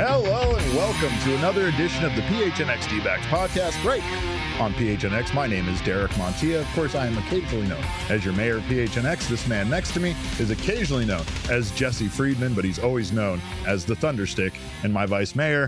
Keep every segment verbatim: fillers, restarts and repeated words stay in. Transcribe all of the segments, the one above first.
Hello and welcome to another edition of the P H N X D-Backs podcast right on P H N X. My name is Derek Montilla. Of course, I am occasionally known as your mayor of P H N X. This man next to me is occasionally known as Jesse Friedman, but he's always known as the Thunderstick and my vice mayor.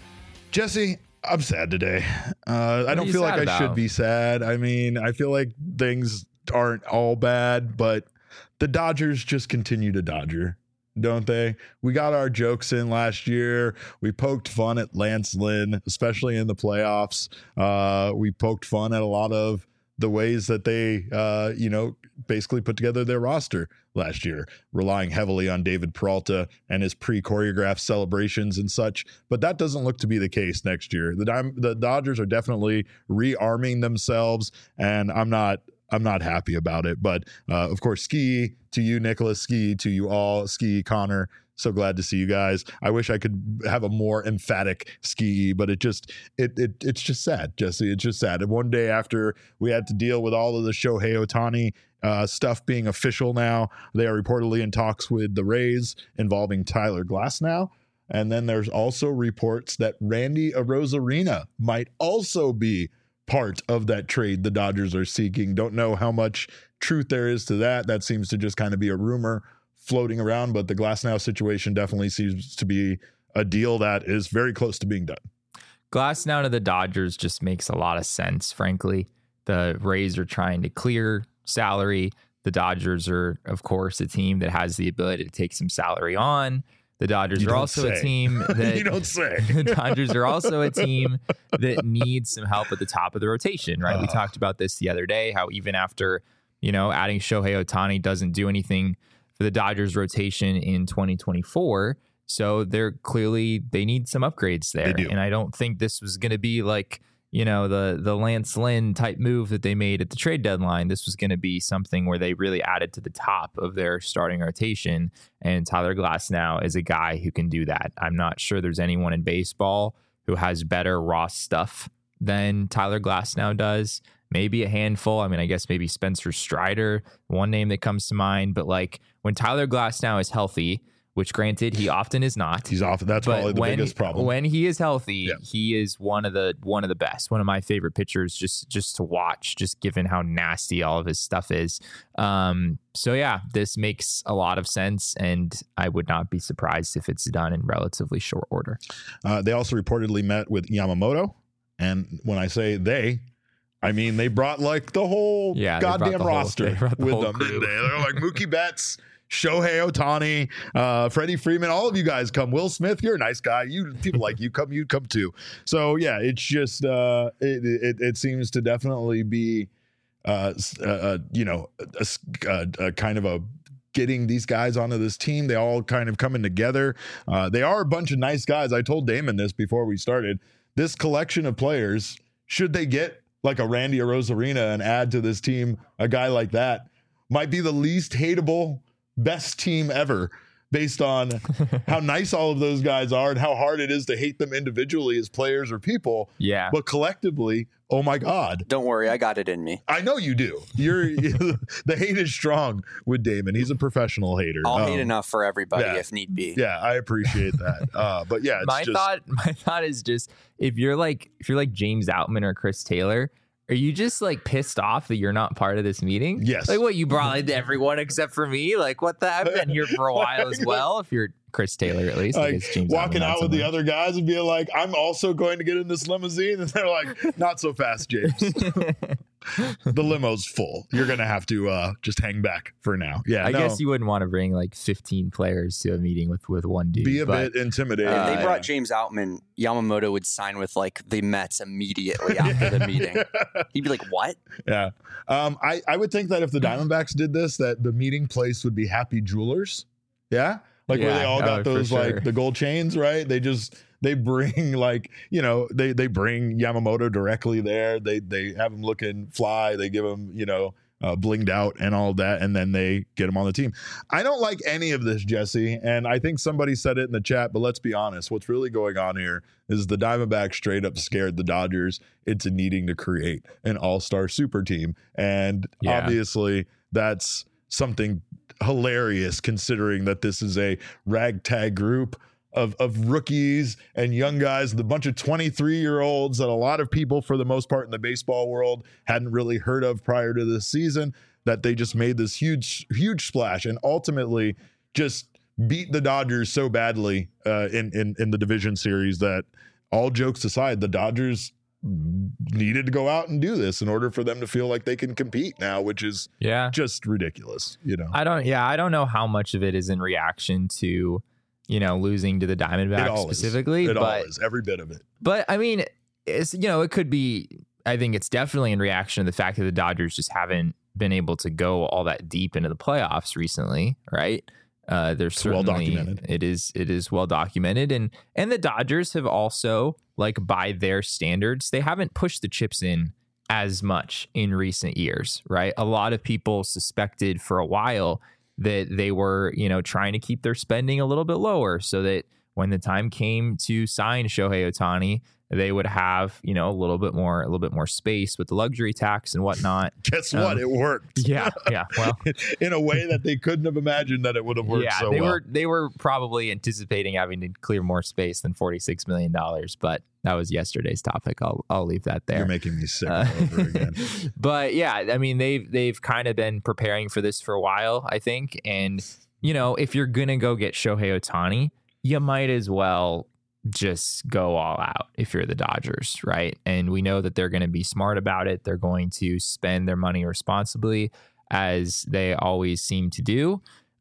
Jesse, I'm sad today. Uh, I don't feel like I about? should be sad. I mean, I feel like things aren't all bad, but the Dodgers just continue to Dodger, don't they? We got our jokes in last year. We poked fun at Lance Lynn, especially in the playoffs. Uh, we poked fun at a lot of the ways that they, uh, you know, basically put together their roster last year, relying heavily on David Peralta and his pre-choreographed celebrations and such. But that doesn't look to be the case next year. The, Dime, the Dodgers are definitely rearming themselves, and I'm not I'm not happy about it. But uh, of course, ski to you, Nicholas, ski to you all, ski Connor. So glad to see you guys. I wish I could have a more emphatic ski, but it just it it it's just sad, Jesse. It's just sad. And one day after we had to deal with all of the Shohei Ohtani uh, stuff being official now, they are reportedly in talks with the Rays involving Tyler Glasnow. And then there's also reports that Randy Arozarena might also be part of that trade the Dodgers are seeking. Don't know how much truth there is to that. That seems to just kind of be a rumor floating around, but the Glasnow situation definitely seems to be a deal that is very close to being done. Glasnow to the Dodgers just makes a lot of sense, frankly. The Rays are trying to clear salary. The Dodgers are, of course, a team that has the ability to take some salary on. The Dodgers you are also say. a team that you don't say. The Dodgers are also a team that needs some help at the top of the rotation, right? Uh, we talked about this the other day, how even after, you know, adding Shohei Ohtani doesn't do anything for the Dodgers rotation in twenty twenty-four. So they're clearly, they need some upgrades there. And I don't think this was going to be like, you know, the the Lance Lynn type move that they made at the trade deadline. This was going to be something where they really added to the top of their starting rotation. And Tyler Glasnow is a guy who can do that. I'm not sure there's anyone in baseball who has better raw stuff than Tyler Glasnow does. Maybe a handful. I mean, I guess maybe Spencer Strider, one name that comes to mind. But like when Tyler Glasnow is healthy, which granted he often is not. He's often that's but probably the when, biggest problem. When he is healthy, yeah. he is one of the one of the best. One of my favorite pitchers, just just to watch, just given how nasty all of his stuff is. Um, so yeah, this makes a lot of sense, and I would not be surprised if it's done in relatively short order. Uh, they also reportedly met with Yamamoto, and when I say they, I mean they brought like the whole yeah, goddamn the roster whole, the with whole them. crew. They're like Mookie Betts, Shohei Ohtani, uh, Freddie Freeman, all of you guys come. Will Smith, you're a nice guy. You people like you come, you come too. So yeah, it's just uh, it, it it seems to definitely be uh, uh you know a, a, a kind of a getting these guys onto this team. They all kind of coming together. Uh, they are a bunch of nice guys. I told Damon this before we started. This collection of players, should they get like a Randy Arozarena and add to this team a guy like that, might be the least hateable, best team ever based on how nice all of those guys are and how hard it is to hate them individually as players or people. Yeah. But collectively, oh my God. Don't worry, I got it in me. I know you do. You're the hate is strong with Damon. He's a professional hater. I'll um, hate enough for everybody yeah. if need be. Yeah, I appreciate that. Uh, but yeah, it's my just, thought my thought is just if you're like if you're like James Outman or Chris Taylor, are you just like pissed off that you're not part of this meeting? Yes. Like what, you brought in everyone except for me? Like what the I've been here for a while as well. If you're Chris Taylor, at least. Like, James walking Outman, out with someone. the other guys and being like, I'm also going to get in this limousine. And they're like, not so fast, James. The limo's full. You're going to have to uh, just hang back for now. Yeah, I no, guess you wouldn't want to bring like fifteen players to a meeting with, with one dude. be a but, bit intimidating. If Uh, they brought James Outman, Yamamoto would sign with like the Mets immediately after the meeting. He'd be like, what? Yeah. Um, I, I would think that if the Diamondbacks did this, that the meeting place would be Happy Jewelers. Yeah. Like where Yeah, they all got oh, for those sure. like the gold chains, right? They just they bring like, you know, they they bring Yamamoto directly there. They they have him looking fly. They give him, you know, uh, blinged out and all that, and then they get him on the team. I don't like any of this, Jesse, and I think somebody said it in the chat, but let's be honest. What's really going on here is the Diamondbacks straight up scared the Dodgers into needing to create an all-star super team, and Yeah. obviously that's something hilarious considering that this is a ragtag group of of rookies and young guys, the bunch of twenty-three year olds that a lot of people, for the most part in the baseball world, hadn't really heard of prior to this season, that they just made this huge, huge splash and ultimately just beat the Dodgers so badly uh, in, in, in the division series that, all jokes aside, the Dodgers needed to go out and do this in order for them to feel like they can compete now, which is yeah. just ridiculous. You know, I don't, yeah, I don't know how much of it is in reaction to, you know, losing to the Diamondbacks specifically. Is. It but, all is, every bit of it. But I mean, it's, you know, it could be, I think it's definitely in reaction to the fact that the Dodgers just haven't been able to go all that deep into the playoffs recently, right? Uh, there's certainly, well documented. It is it is well documented, and and the Dodgers have also, like, by their standards, they haven't pushed the chips in as much in recent years, right? A lot of people suspected for a while that they were, you know, trying to keep their spending a little bit lower so that when the time came to sign Shohei Ohtani, they would have, you know, a little bit more, a little bit more space with the luxury tax and whatnot. Guess what? Um, it worked. Yeah, yeah. Well, in a way that they couldn't have imagined that it would have worked. Yeah, so they well. were they were probably anticipating having to clear more space than forty-six million dollars, but that was yesterday's topic. I'll I'll leave that there. You're making me sick uh, all over again. But yeah, I mean, they've they've kind of been preparing for this for a while, I think, and you know, if you're gonna go get Shohei Ohtani, you might as well just go all out if you're the Dodgers, right? And we know that they're going to be smart about it. They're going to spend their money responsibly, as they always seem to do.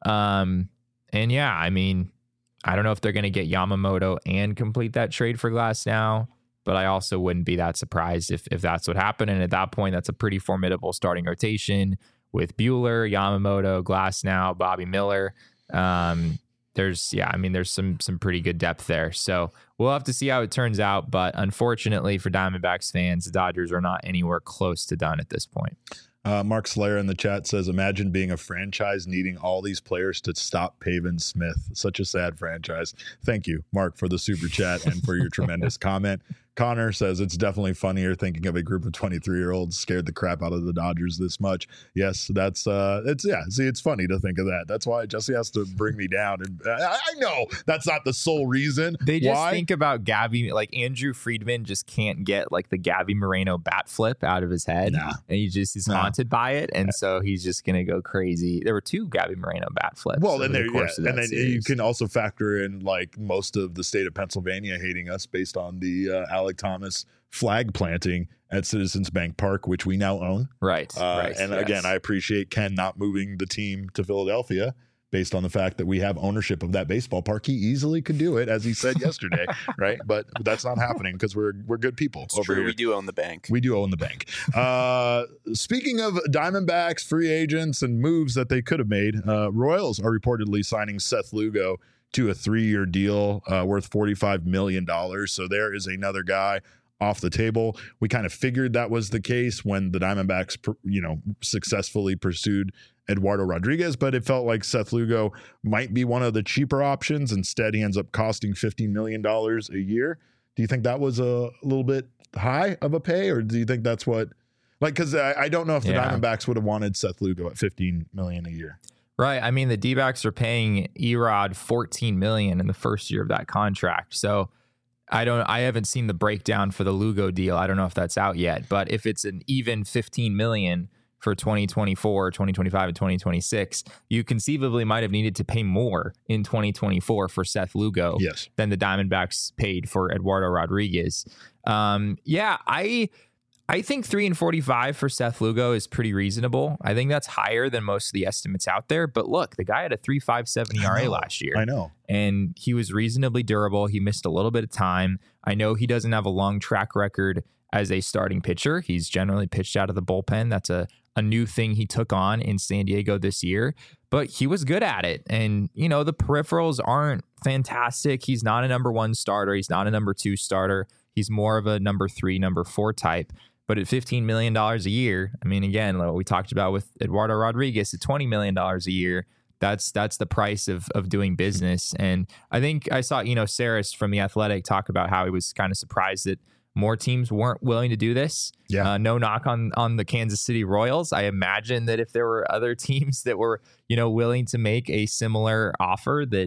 Um, and yeah, I mean, I don't know if they're going to get Yamamoto and complete that trade for Glasnow, but I also wouldn't be that surprised if if that's what happened. And at that point, that's a pretty formidable starting rotation with Buehler, Yamamoto, Glasnow, Bobby Miller. Um, There's, yeah, I mean, there's some some pretty good depth there. So we'll have to see how it turns out. But unfortunately for Diamondbacks fans, the Dodgers are not anywhere close to done at this point. Uh, Mark Slayer in the chat says, imagine being a franchise needing all these players to stop Pavin Smith. Such a sad franchise. Thank you, Mark, for the super chat and for your tremendous comment. Connor says, it's definitely funnier thinking of a group of twenty-three year olds scared the crap out of the Dodgers this much. Yes, that's uh it's yeah see it's funny to think of that. That's why Jesse has to bring me down, and I, I know that's not the sole reason. They just why. think about Gabby, like Andrew Friedman just can't get like the Gabby Moreno bat flip out of his head. Nah. And he just is nah. haunted by it, and so he's just gonna go crazy. There were two Gabby Moreno bat flips. Well, and there, the yeah, and then series. You can also factor in like most of the state of Pennsylvania hating us based on the uh, Alec Thomas flag planting at Citizens Bank Park, which we now own. Right. Uh, right and yes. again, I appreciate Ken not moving the team to Philadelphia based on the fact that we have ownership of that baseball park. He easily could do it, as he said yesterday, right? But that's not happening because we're we're good people. It's over true. Here. We do own the bank. We do own the bank. Uh, speaking of Diamondbacks, free agents, and moves that they could have made, uh, Royals are reportedly signing Seth Lugo to a three-year deal uh, worth forty-five million dollars. So there is another guy off the table. We kind of figured that was the case when the Diamondbacks, you know, successfully pursued Eduardo Rodriguez, but it felt like Seth Lugo might be one of the cheaper options. Instead, he ends up costing fifteen million dollars a year. Do you think that was a little bit high of a pay, or do you think that's what, like, because I, I don't know if the yeah. Diamondbacks would have wanted Seth Lugo at fifteen million dollars a year. Right. I mean, the D-backs are paying Erod fourteen million dollars in the first year of that contract. So I don't, I haven't seen the breakdown for the Lugo deal. I don't know if that's out yet, but if it's an even fifteen million dollars for twenty twenty-four, twenty twenty-five, and twenty twenty-six, you conceivably might have needed to pay more in twenty twenty-four for Seth Lugo yes. than the Diamondbacks paid for Eduardo Rodriguez. Um, yeah, I, I think three and forty-five for Seth Lugo is pretty reasonable. I think that's higher than most of the estimates out there. But look, the guy had a three point five seven E R A last year. I know. And he was reasonably durable. He missed a little bit of time. I know he doesn't have a long track record as a starting pitcher. He's generally pitched out of the bullpen. That's a, a new thing he took on in San Diego this year. But he was good at it. And, you know, the peripherals aren't fantastic. He's not a number one starter. He's not a number two starter. He's more of a number three, number four type. But at fifteen million dollars a year, I mean, again, like what we talked about with Eduardo Rodriguez at twenty million dollars a year, that's that's the price of of doing business. And I think I saw, you know, Saris from The Athletic talk about how he was kind of surprised that more teams weren't willing to do this. Yeah. Uh, no knock on on the Kansas City Royals. I imagine that if there were other teams that were, you know, willing to make a similar offer, that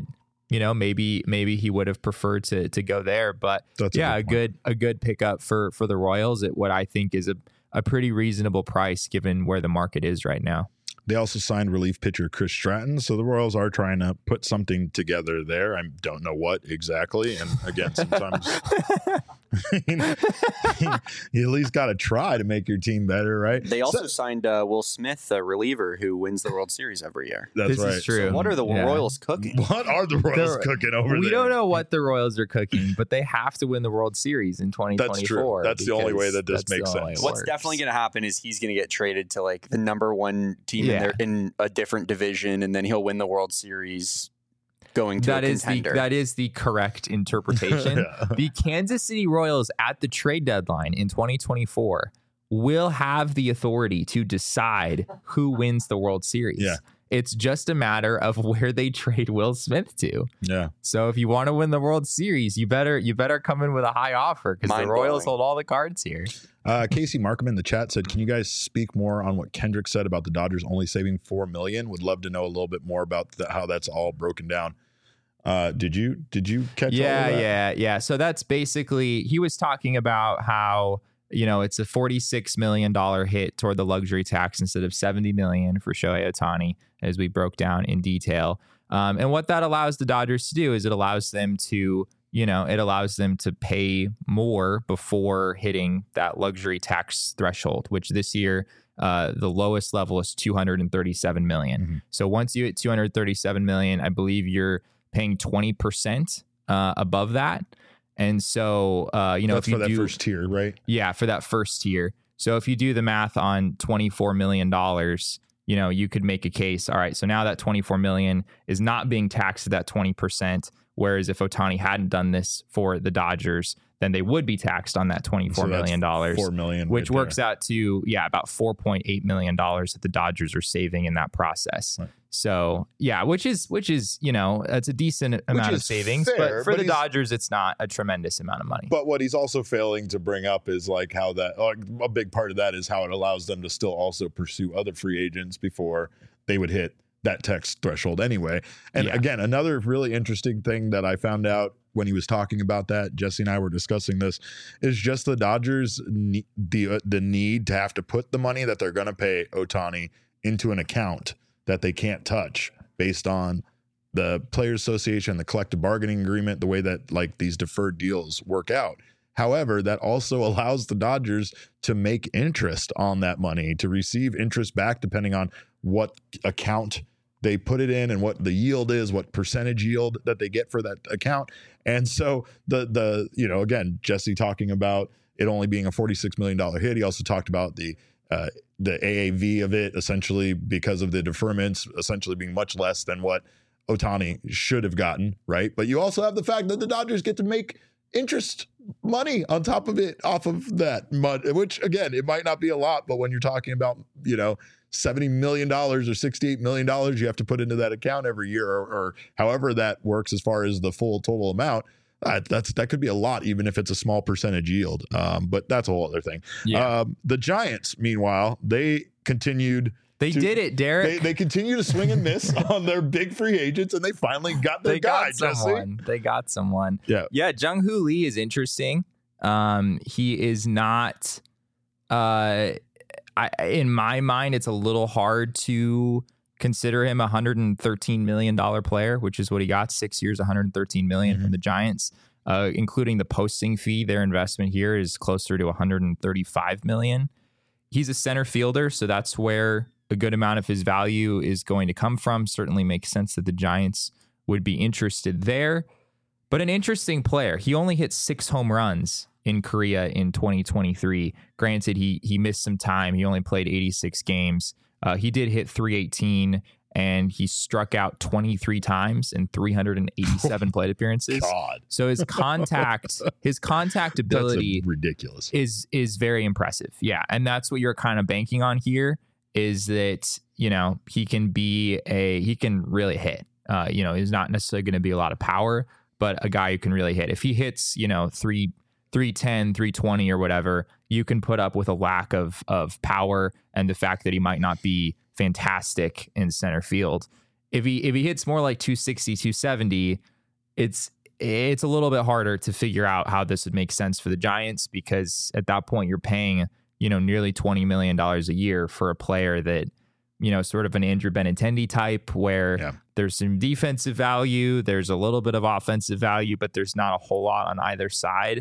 you know, maybe maybe he would have preferred to to go there. But That's a yeah, good a good a good pickup for for the Royals at what I think is a, a pretty reasonable price given where the market is right now. They also signed relief pitcher Chris Stratton, so the Royals are trying to put something together there. I don't know what exactly, and again, sometimes you at least got to try to make your team better, right? They also So- signed uh, Will Smith, a reliever who wins the World Series every year. That's This right. is true. So what are the Yeah. Royals cooking? What are the Royals They're- cooking over We there? don't know what the Royals are cooking, but they have to win the World Series in twenty twenty-four. That's true. That's the only way because that this that's the makes only way sense. it What's works. definitely going to happen is he's going to get traded to like the number one team in Yeah. their in a different division, and then he'll win the World Series going to That a is the contender. that is the correct interpretation. Yeah. The Kansas City Royals at the trade deadline in twenty twenty-four will have the authority to decide who wins the World Series. Yeah. It's just a matter of where they trade Will Smith to. Yeah. So if you want to win the World Series, you better you better come in with a high offer because the Mind-blowing. Royals hold all the cards here. Uh, Casey Markham in the chat said, "Can you guys speak more on what Kendrick said about the Dodgers only saving four million? Would love to know a little bit more about the, how that's all broken down." Uh, did you did you catch? Yeah, all of that? yeah, yeah. So that's basically he was talking about how, you know, it's a forty-six million dollars hit toward the luxury tax instead of seventy million dollars for Shohei Ohtani, as we broke down in detail. Um, and what that allows the Dodgers to do is it allows them to, you know, it allows them to pay more before hitting that luxury tax threshold, which this year uh, the lowest level is two hundred thirty-seven million dollars. Mm-hmm. So once you hit two hundred thirty-seven million dollars, I believe you're paying twenty percent uh, above that. And so, uh, you know, That's if you for that do, first tier, right? yeah, for that first tier. So if you do the math on twenty-four million dollars, you know, you could make a case. All right, so now that twenty-four million dollars is not being taxed at that twenty percent. Whereas if Ohtani hadn't done this for the Dodgers, then they would be taxed on that twenty-four So that's million dollars, Four million, which right works out to, yeah, about four point eight million dollars that the Dodgers are saving in that process. Right. So, yeah, which is, which is, you know, it's a decent amount of is savings. fair, but for but the he's- Dodgers, it's not a tremendous amount of money. But what he's also failing to bring up is like how that like a big part of that is how it allows them to still also pursue other free agents before they would hit that tax threshold anyway. And Yeah. again, another really interesting thing that I found out when he was talking about that, Jesse and I were discussing this, is just the Dodgers ne- the uh, the need to have to put the money that they're going to pay Ohtani into an account that they can't touch based on the Players Association, the collective bargaining agreement, the way that like these deferred deals work out. However, that also allows the Dodgers to make interest on that money, to receive interest back depending on what account they put it in and what the yield is, what percentage yield that they get for that account. And so the the you know, again, Jesse talking about it only being a forty-six million dollars hit. He also talked about the uh, the A A V of it essentially because of the deferments essentially being much less than what Ohtani should have gotten, right? But you also have the fact that the Dodgers get to make interest money on top of it off of that money, which again, it might not be a lot, but when you're talking about, you know, seventy million dollars or sixty-eight million dollars you have to put into that account every year or, or however that works as far as the full total amount, uh, that's that could be a lot, even if it's a small percentage yield. Um, but that's a whole other thing. Yeah. Um, the Giants, meanwhile, they continued They to- did it, Derek. They, they continue to swing and miss on their big free agents, and they finally got their they guy, got Jesse. someone. They got someone. Yeah. Yeah. Jung Hoo Lee is interesting. Um, he is not, uh, I, in my mind, it's a little hard to consider him a one hundred thirteen million dollars player, which is what he got, six years, one hundred thirteen million dollars Mhm. from the Giants, uh, including the posting fee. Their investment here is closer to one hundred thirty-five million dollars. He's a center fielder, so that's where a good amount of his value is going to come from. Certainly makes sense that the Giants would be interested there. But an interesting player. He only hit six home runs in Korea in twenty twenty-three. Granted, he he missed some time. He only played eighty-six games. Uh, he did hit three eighteen, and he struck out twenty-three times in three hundred eighty-seven plate appearances. God, So his contact, his contact ability that's a, ridiculous. is is very impressive. Yeah, and that's what you're kind of banking on here, is that, you know, he can be a he can really hit. Uh, you know, he's not necessarily going to be a lot of power, but a guy who can really hit. If he hits, you know, three three ten, three twenty or whatever, you can put up with a lack of of power and the fact that he might not be fantastic in center field. If he if he hits more like two sixty, two seventy, it's it's a little bit harder to figure out how this would make sense for the Giants, because at that point you're paying, you know, nearly twenty million dollars a year for a player that, you know, sort of an Andrew Benintendi type, where yeah. there's some defensive value, there's a little bit of offensive value, but there's not a whole lot on either side.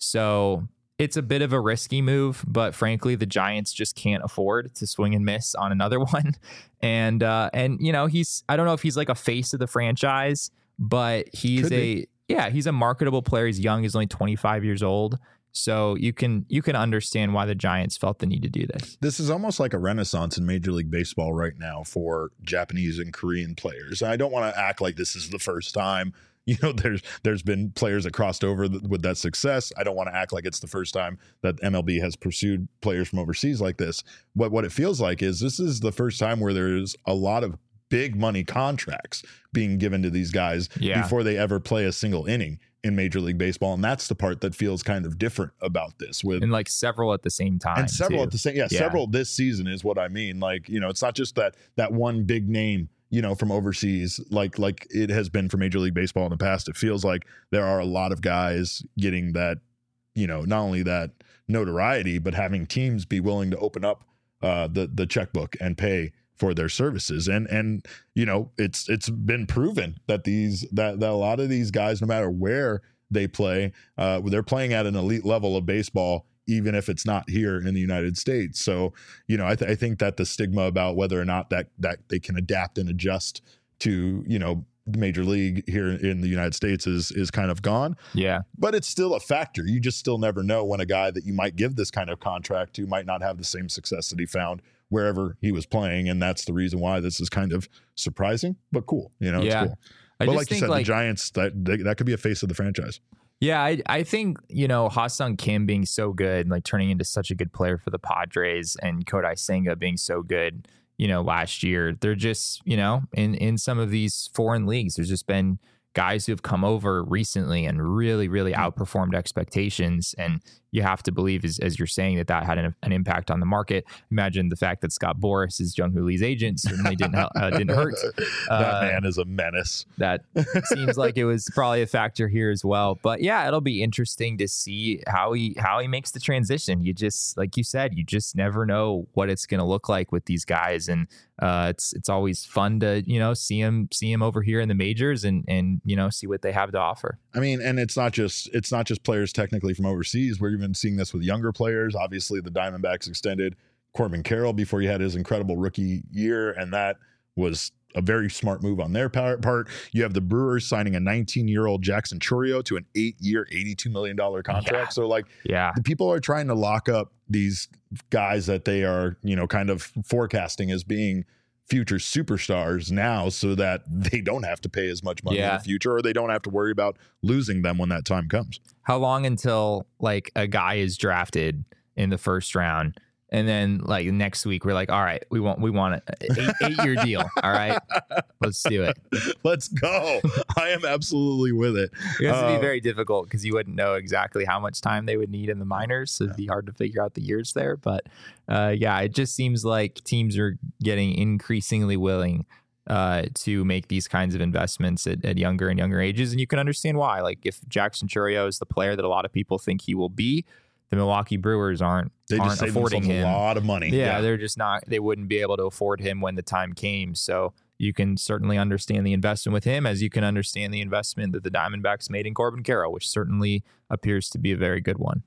So it's a bit of a risky move, but frankly, the Giants just can't afford to swing and miss on another one. And, uh, and you know, he's, I don't know if he's like a face of the franchise, but he's Could a, be. yeah, he's a marketable player. He's young. He's only twenty-five years old. So you can you can understand why the Giants felt the need to do this. This is almost like a renaissance in Major League Baseball right now for Japanese and Korean players. I don't want to act like this is the first time. You know, there's there's been players that crossed over th- with that success. I don't want to act like it's the first time that M L B has pursued players from overseas like this. What what it feels like is this is the first time where there's a lot of big money contracts being given to these guys yeah. before they ever play a single inning in Major League Baseball. And that's the part that feels kind of different about this. With and like several at the same time. And several too. at the same, yeah, yeah, several this season is what I mean. Like, you know, it's not just that that one big name, you know, from overseas, like like it has been for Major League Baseball in the past. It feels like there are a lot of guys getting that, you know, not only that notoriety, but having teams be willing to open up uh, the the checkbook and pay for their services. And, and, you know, it's, it's been proven that these, that, that a lot of these guys, no matter where they play, uh, they're playing at an elite level of baseball, even if it's not here in the United States. So, you know, I, th- I think that the stigma about whether or not that, that they can adapt and adjust to, you know, the major league here in the United States is, is kind of gone. Yeah. But it's still a factor. You just still never know when a guy that you might give this kind of contract to might not have the same success that he found wherever he was playing. And that's the reason why this is kind of surprising, but cool. You know, yeah. it's cool. I but just like you think said, like, the Giants, that that could be a face of the franchise. Yeah, I, I think, you know, Ha-Sung Kim being so good and like turning into such a good player for the Padres, and Kodai Senga being so good, you know, last year, they're just, you know, in, in some of these foreign leagues, there's just been guys who have come over recently and really, really outperformed expectations. And you have to believe, as, as you're saying, that that had an, an impact on the market. Imagine the fact that Scott Boras is Jung Hoo Lee's agent certainly didn't uh, didn't hurt. That uh, man is a menace. That seems like it was probably a factor here as well. But yeah, it'll be interesting to see how he how he makes the transition. You just, like you said, you just never know what it's going to look like with these guys, and uh, it's it's always fun to, you know, see him see him over here in the majors and and you know, see what they have to offer. I mean, and it's not just it's not just players technically from overseas. We're even seeing this with younger players. Obviously, the Diamondbacks extended Corbin Carroll before he had his incredible rookie year, and that was a very smart move on their part. You have the Brewers signing a nineteen-year-old Jackson Chourio to an eight-year, eighty-two million dollars contract. Yeah. So, like, yeah, the people are trying to lock up these guys that they are, you know, kind of forecasting as being future superstars now, so that they don't have to pay as much money yeah. in the future, or they don't have to worry about losing them when that time comes. How long until like a guy is drafted in the first round, and then like next week we're like, all right, we want we want an eight, eight year deal. All right, let's do it. Let's go. I am absolutely with it. It has to be uh, very difficult because you wouldn't know exactly how much time they would need in the minors, so it'd be hard to figure out the years there. But uh, yeah, it just seems like teams are getting increasingly willing uh, to make these kinds of investments at, at younger and younger ages, and you can understand why. Like if Jackson Chourio is the player that a lot of people think he will be, the Milwaukee Brewers aren't they aren't just affording him a lot of money. Yeah, yeah, they're just not. They wouldn't be able to afford him when the time came. So you can certainly understand the investment with him, as you can understand the investment that the Diamondbacks made in Corbin Carroll, which certainly appears to be a very good one.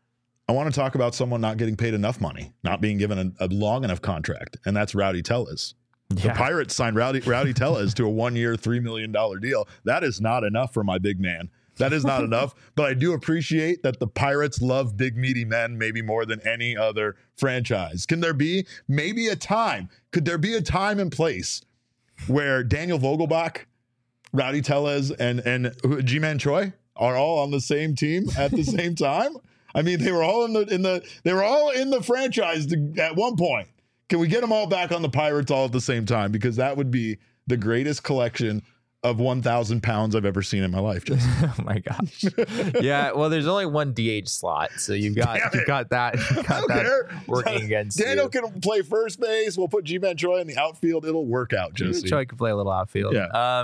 I want to talk about someone not getting paid enough money, not being given a, a long enough contract, and that's Rowdy Tellez. Yeah. The Pirates signed Rowdy, Rowdy Tellez to a one-year, three million dollars deal. That is not enough for my big man. That is not enough, but I do appreciate that the Pirates love big, meaty men maybe more than any other franchise. Can there be maybe a time? Could there be a time and place where Daniel Vogelbach, Rowdy Tellez, and, and Ji-Man Choi are all on the same team at the same time? I mean, they were all in the in the they were all in the franchise to, at one point. Can we get them all back on the Pirates all at the same time? Because that would be the greatest collection of one thousand pounds I've ever seen in my life. Just. Oh my gosh. Yeah. Well, there's only one D H slot. So you've got, you've got that, you've got that care. working against Daniel you. can play first base. We'll put Ji-Man Choi in the outfield. It'll work out, Jesse. Choi can play a little outfield. Yeah. Um,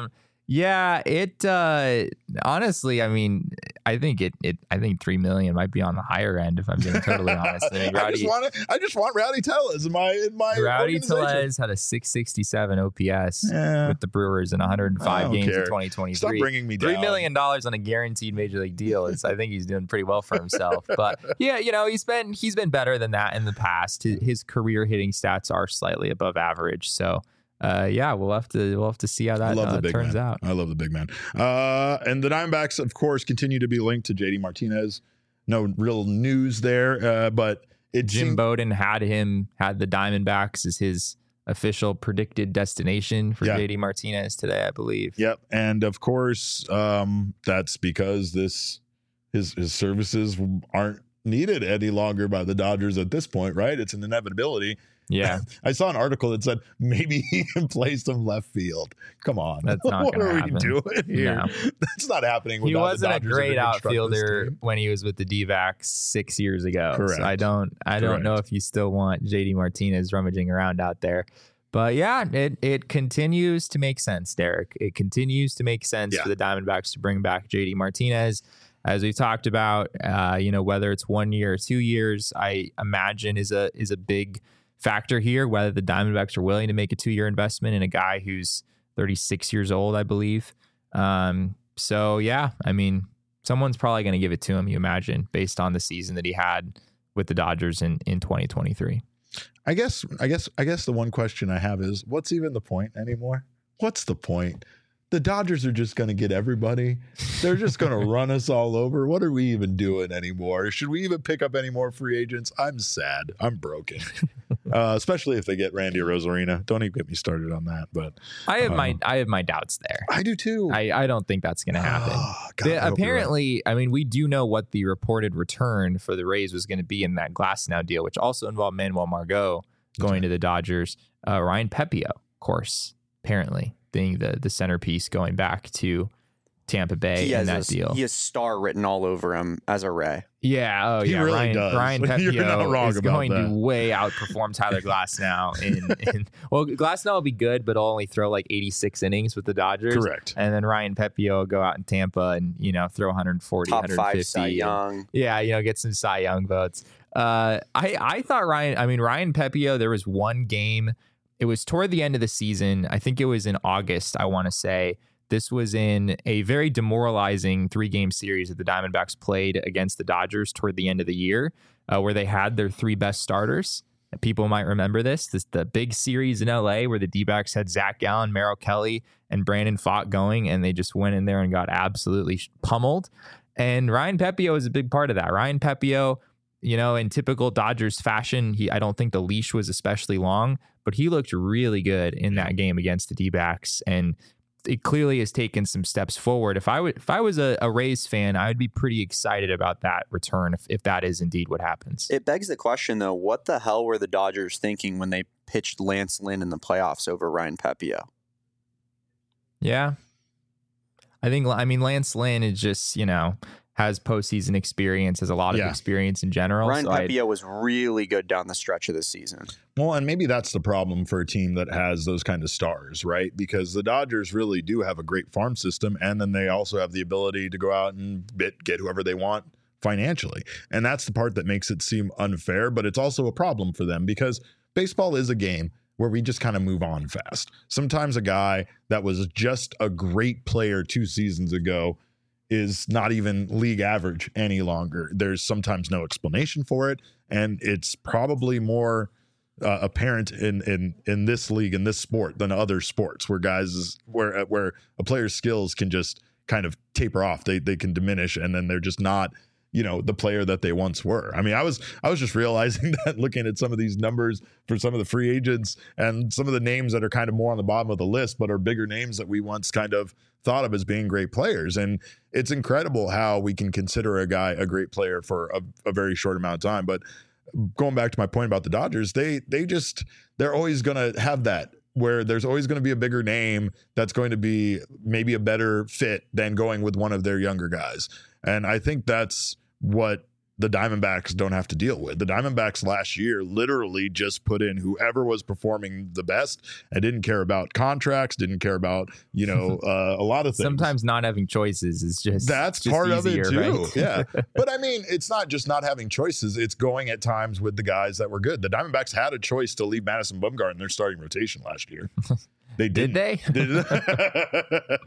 Yeah, it uh honestly, I mean, I think it it I think three million might be on the higher end if I'm being totally honest. I mean, I just want to, I just want Rowdy Tellez in my in my Rowdy Tellez had a six sixty-seven O P S yeah. with the Brewers in one hundred five games care. in twenty twenty-three. Stop bringing me down. three million dollars on a guaranteed major league deal is I think he's doing pretty well for himself. But yeah, you know, he's been he's been better than that in the past. His, his career hitting stats are slightly above average, so Uh, yeah, we'll have to we'll have to see how that uh, turns man. out. I love the big man. Uh, and the Diamondbacks, of course, continue to be linked to J D Martinez. No real news there, uh, but it Jim seemed- Bowden had him had the Diamondbacks as his official predicted destination for yeah. J D Martinez today, I believe. Yep, and of course, um, that's because this his his services aren't needed any longer by the Dodgers at this point, right? It's an inevitability. Yeah. I saw an article that said maybe he can play some left field. Come on. That's not what are happen. we doing here? No. That's not happening. He wasn't a Dodgers great outfielder team. when he was with the D-backs six years ago. Correct. So I don't I don't Correct. know if you still want J D Martinez rummaging around out there. But yeah, it it continues to make sense, Derek. It continues to make sense Yeah. for the Diamondbacks to bring back J D Martinez. As we've talked about, uh, you know, whether it's one year or two years, I imagine is a is a big factor here, whether the Diamondbacks are willing to make a two-year investment in a guy who's thirty-six years old, I believe. Um, so, yeah, I mean, someone's probably going to give it to him, you imagine, based on the season that he had with the Dodgers in, in twenty twenty-three. I guess, I guess, I guess the one question I have is, what's even the point anymore? What's the point? The Dodgers are just going to get everybody. They're just going to run us all over. What are we even doing anymore? Should we even pick up any more free agents? I'm sad. I'm broken. uh, especially if they get Randy Rosarina. Don't even get me started on that. But I have uh, my I have my doubts there. I do too. I, I don't think that's going to happen. Oh, God, The- I hope you're right. apparently, I mean, we do know what the reported return for the Rays was going to be in that Glasnow deal, which also involved Manuel Margot going right. to the Dodgers. Uh, Ryan Pepio, of course, apparently being the the centerpiece going back to Tampa Bay He in has that a, deal. He has star written all over him as a Ray. Yeah, oh He yeah, really Ryan, does. Ryan You're not Pepio wrong is about going that. to way outperform Tyler Glasnow. In, in well, Glasnow will be good, but he'll only throw like eighty-six innings with the Dodgers. Correct. And then Ryan Pepio will go out in Tampa and you know throw one forty, Top one five fifty. Cy and- Young. Yeah, you know, get some Cy Young votes. Uh, I I thought Ryan. I mean Ryan Pepio. There was one game. It was toward the end of the season. I think it was in August. I want to say this was in a very demoralizing three-game series that the Diamondbacks played against the Dodgers toward the end of the year, uh, where they had their three best starters. People might remember this. This the big series in L A where the D-backs had Zach Gallen, Merrill Kelly, and Brandon Pfaadt going, and they just went in there and got absolutely pummeled. And Ryan Pepio is a big part of that. Ryan Pepio, you know, in typical Dodgers fashion, he I don't think the leash was especially long, but he looked really good in that game against the D-backs, and it clearly has taken some steps forward. If I would, if I was a, a Rays fan, I would be pretty excited about that return if, if that is indeed what happens. It begs the question, though, what the hell were the Dodgers thinking when they pitched Lance Lynn in the playoffs over Ryan Pepio? Yeah. I think, I mean, Lance Lynn is just, you know, has postseason experience, has a lot of Yeah. experience in general. Ryan so I'd- Pepio was really good down the stretch of the season. Well, and maybe that's the problem for a team that has those kind of stars, right? Because the Dodgers really do have a great farm system, and then they also have the ability to go out and bit, get whoever they want financially. And that's the part that makes it seem unfair, but it's also a problem for them because baseball is a game where we just kind of move on fast. Sometimes a guy that was just a great player two seasons ago is not even league average any longer. There's sometimes no explanation for it, and it's probably more uh, apparent in in in this league, in this sport, than other sports where guys where where a player's skills can just kind of taper off. They they can diminish, and then they're just not, you know, the player that they once were. I mean, I was I was just realizing that looking at some of these numbers for some of the free agents and some of the names that are kind of more on the bottom of the list, but are bigger names that we once kind of thought of as being great players. And it's incredible how we can consider a guy a great player for a, a very short amount of time. But going back to my point about the Dodgers, they they just they're always going to have that where there's always going to be a bigger name that's going to be maybe a better fit than going with one of their younger guys. And I think that's what the Diamondbacks don't have to deal with. The Diamondbacks last year literally just put in whoever was performing the best and didn't care about contracts, didn't care about, you know, uh, a lot of things. Sometimes not having choices is just that's just part easier, of it too. right? Yeah. But I mean, it's not just not having choices. It's going at times with the guys that were good. The Diamondbacks had a choice to leave Madison Bumgarner in their starting rotation last year. They didn't. Did they? Did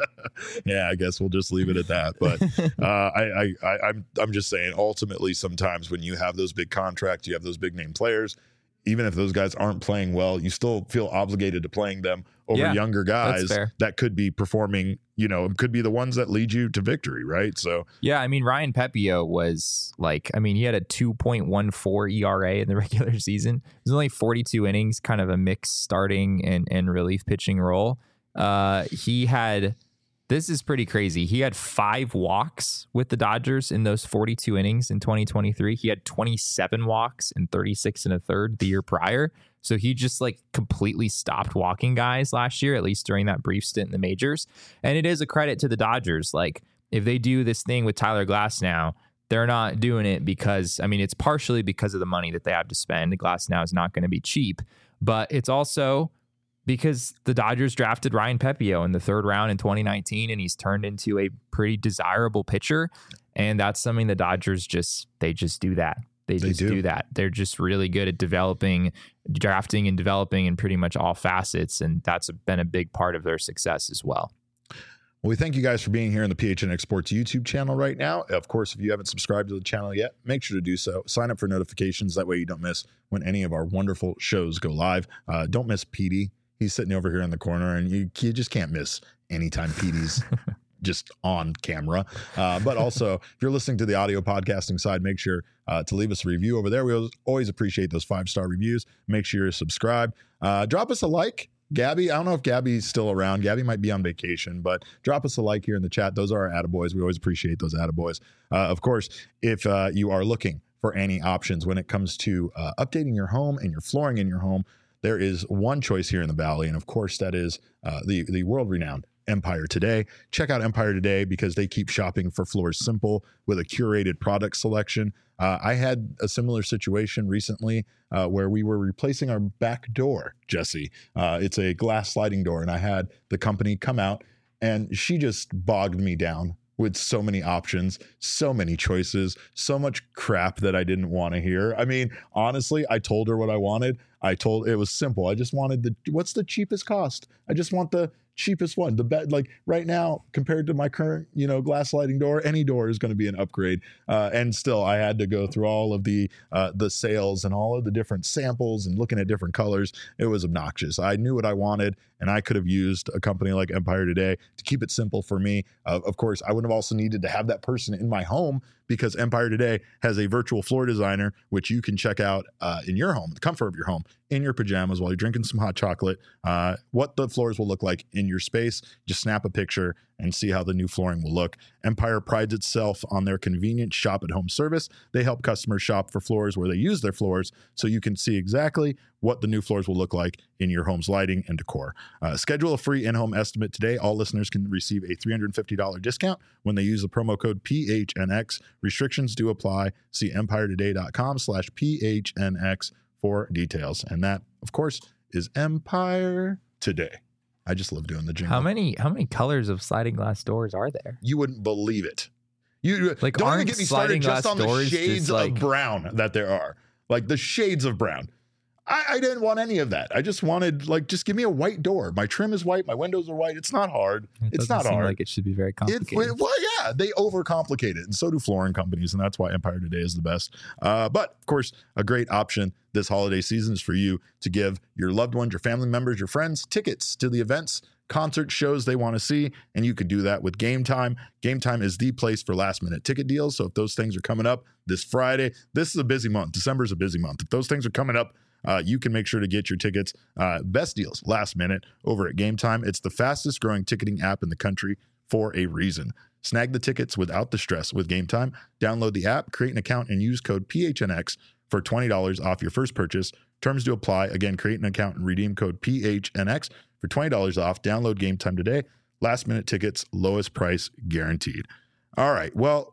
yeah, I guess we'll just leave it at that. But uh, I, I, I, I'm, I'm just saying. Ultimately, sometimes when you have those big contracts, you have those big name players. Even if those guys aren't playing well, you still feel obligated to playing them over Yeah, younger guys that could be performing. You know, could be the ones that lead you to victory, right? So yeah, I mean, Ryan Pepiot was like, I mean, he had a two point one four E R A in the regular season. It was only forty-two innings, kind of a mixed starting and, and relief pitching role. Uh, he had, this is pretty crazy. He had five walks with the Dodgers in those forty-two innings in twenty twenty-three. He had twenty-seven walks and thirty-six and a third the year prior. So he just like completely stopped walking guys last year, at least during that brief stint in the majors. And it is a credit to the Dodgers. Like if they do this thing with Tyler Glasnow, they're not doing it because, I mean, it's partially because of the money that they have to spend. Glasnow is not going to be cheap, but it's also because the Dodgers drafted Ryan Pepiot in the third round in twenty nineteen, and he's turned into a pretty desirable pitcher. And that's something the Dodgers just, they just do that. They just they do. do that. They're just really good at developing, drafting and developing in pretty much all facets. And that's been a big part of their success as well. Well, we thank you guys for being here on the P H N X Sports YouTube channel right now. Of course, if you haven't subscribed to the channel yet, make sure to do so. Sign up for notifications. That way you don't miss when any of our wonderful shows go live. Uh, don't miss Petey. He's sitting over here in the corner, and you, you just can't miss anytime Petey's just on camera. Uh, but also, if you're listening to the audio podcasting side, make sure uh, to leave us a review over there. We always appreciate those five-star reviews. Make sure you're subscribed. Uh, drop us a like. Gabby, I don't know if Gabby's still around. Gabby might be on vacation, but drop us a like here in the chat. Those are our attaboys. We always appreciate those attaboys. Uh, of course, if uh, you are looking for any options when it comes to uh, updating your home and your flooring in your home, there is one choice here in the Valley, and of course, that is uh, the, the world-renowned Empire Today. Check out Empire Today because they keep shopping for floors simple with a curated product selection. Uh, I had a similar situation recently uh, where we were replacing our back door, Jesse. Uh, it's a glass sliding door, and I had the company come out, and she just bogged me down with so many options, so many choices, so much crap that I didn't want to hear. I mean, honestly, I told her what I wanted. I told it was simple. I just wanted the, what's the cheapest cost? I just want the cheapest one. The bet, like right now, compared to my current, you know, glass sliding door, any door is going to be an upgrade. Uh, and still, I had to go through all of the uh, the sales and all of the different samples and looking at different colors. It was obnoxious. I knew what I wanted, and I could have used a company like Empire Today to keep it simple for me. Uh, of course, I would have also needed to have that person in my home because Empire Today has a virtual floor designer, which you can check out uh, in your home, the comfort of your home, in your pajamas while you're drinking some hot chocolate, uh, what the floors will look like in your space. Just snap a picture and see how the new flooring will look. Empire prides itself on their convenient shop-at-home service. They help customers shop for floors where they use their floors so you can see exactly what the new floors will look like in your home's lighting and decor. Uh, schedule a free in-home estimate today. All listeners can receive a three hundred fifty dollars discount when they use the promo code P H N X. Restrictions do apply. See empiretoday.com slash PHNX for details. And that, of course, is Empire Today. I just love doing the jingle. How many how many colors of sliding glass doors are there? You wouldn't believe it. You like don't aren't even get me started just on the shades like... of brown that there are. Like the shades of brown. I, I didn't want any of that. I just wanted, like, just give me a white door. My trim is white. My windows are white. It's not hard. It it's not seem hard. Like it should be very complicated. It, well, yeah, they overcomplicate it, and so do flooring companies, and that's why Empire Today is the best. Uh, but of course, a great option this holiday season is for you to give your loved ones, your family members, your friends tickets to the events, concert shows they want to see, and you can do that with Game Time. Game Time is the place for last minute ticket deals. So if those things are coming up this Friday, this is a busy month. December is a busy month. If those things are coming up, Uh, you can make sure to get your tickets, uh, best deals, last minute over at Game Time. It's the fastest growing ticketing app in the country for a reason. Snag the tickets without the stress with Game Time. Download the app, create an account, and use code P H N X for twenty dollars off your first purchase. Terms do apply. Again, create an account and redeem code P H N X for twenty dollars off. Download Game Time today. Last minute tickets, lowest price guaranteed. All right. Well,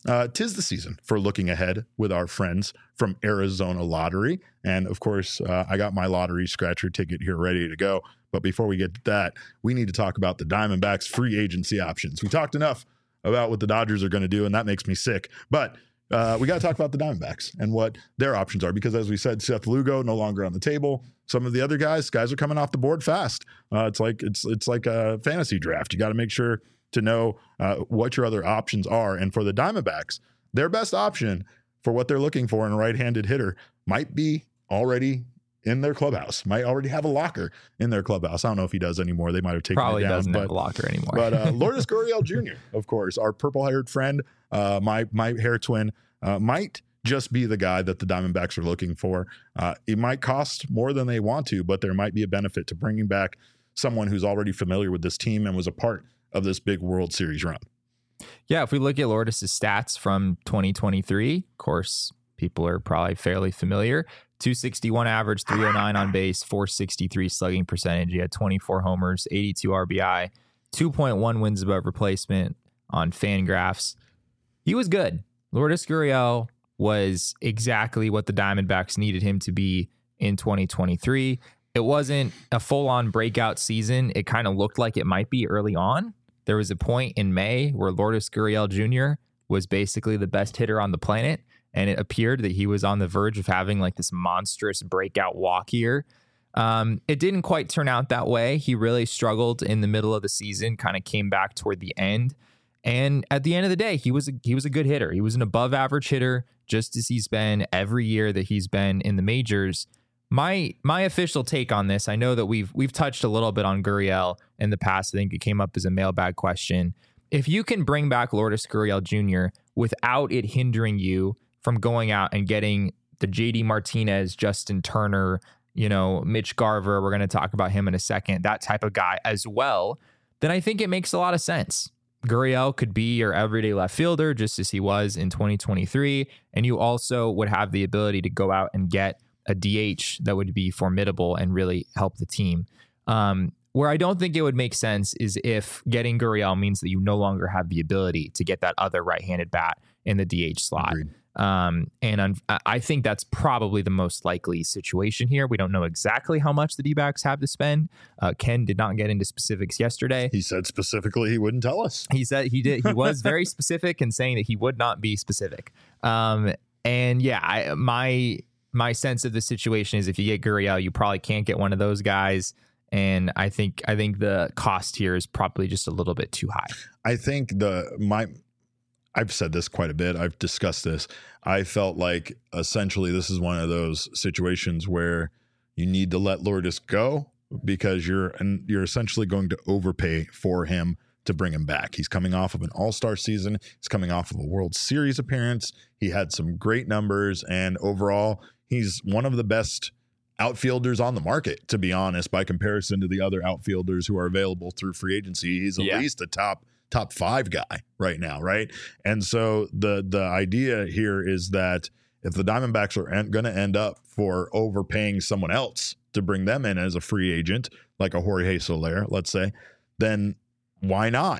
uh, tis the season for looking ahead with our friends from Arizona Lottery. And of course, uh, I got my lottery scratcher ticket here ready to go. But before we get to that, we need to talk about the Diamondbacks free agency options. We talked enough about what the Dodgers are going to do, and that makes me sick. But uh, we got to talk about the Diamondbacks and what their options are, because as we said, Seth Lugo no longer on the table. Some of the other guys, guys are coming off the board fast. Uh, it's like it's it's like a fantasy draft. You got to make sure to know uh, what your other options are. And for the Diamondbacks, their best option for what they're looking for in a right-handed hitter might be already in their clubhouse, might already have a locker in their clubhouse. I don't know if he does anymore. They might have taken Probably it down. doesn't but, have a locker anymore. But uh, Lourdes Gurriel Junior, of course, our purple-haired friend, uh, my my hair twin, uh, might just be the guy that the Diamondbacks are looking for. Uh, it might cost more than they want to, but there might be a benefit to bringing back someone who's already familiar with this team and was a part of this big World Series run. Yeah, if we look at Lourdes' stats from twenty twenty-three, of course, people are probably fairly familiar. two sixty-one average, three oh nine on base, four sixty-three slugging percentage. He had twenty-four homers, eighty-two R B I, two point one wins above replacement on Fangraphs. He was good. Lourdes Gurriel was exactly what the Diamondbacks needed him to be in twenty twenty-three. It wasn't a full-on breakout season. It kind of looked like it might be early on. There was a point in May where Lourdes Gurriel Junior was basically the best hitter on the planet, and it appeared that he was on the verge of having like this monstrous breakout walk year. Um, it didn't quite turn out that way. He really struggled in the middle of the season, kind of came back toward the end. And at the end of the day, he was a, he was a good hitter. He was an above average hitter, just as he's been every year that he's been in the majors. My my official take on this, I know that we've we've touched a little bit on Gurriel in the past. I think it came up as a mailbag question. If you can bring back Lourdes Gurriel Junior without it hindering you from going out and getting the J D Martinez, Justin Turner, you know, Mitch Garver, we're going to talk about him in a second, that type of guy as well, then I think it makes a lot of sense. Gurriel could be your everyday left fielder, just as he was in twenty twenty-three. And you also would have the ability to go out and get a D H that would be formidable and really help the team. Um, where I don't think it would make sense is if getting Gurriel means that you no longer have the ability to get that other right-handed bat in the D H slot. Agreed. Um, and un- I think that's probably the most likely situation here. We don't know exactly how much the D-backs have to spend. Uh, Ken did not get into specifics yesterday. He said specifically he wouldn't tell us. He said he did. He was very specific in saying that he would not be specific. Um, and yeah, I, my my sense of the situation is if you get Gurriel, you probably can't get one of those guys. And I think I think the cost here is probably just a little bit too high. I think the my. I've said this quite a bit. I've discussed this. I felt like essentially this is one of those situations where you need to let Lourdes go because you're and you're essentially going to overpay for him to bring him back. He's coming off of an all-star season. He's coming off of a World Series appearance. He had some great numbers, and overall, he's one of the best outfielders on the market, to be honest, by comparison to the other outfielders who are available through free agency. He's at Yeah. least a top top five guy right now, right? And so the the idea here is that if the Diamondbacks are en- going to end up for overpaying someone else to bring them in as a free agent, like a Jorge Soler, let's say, then why not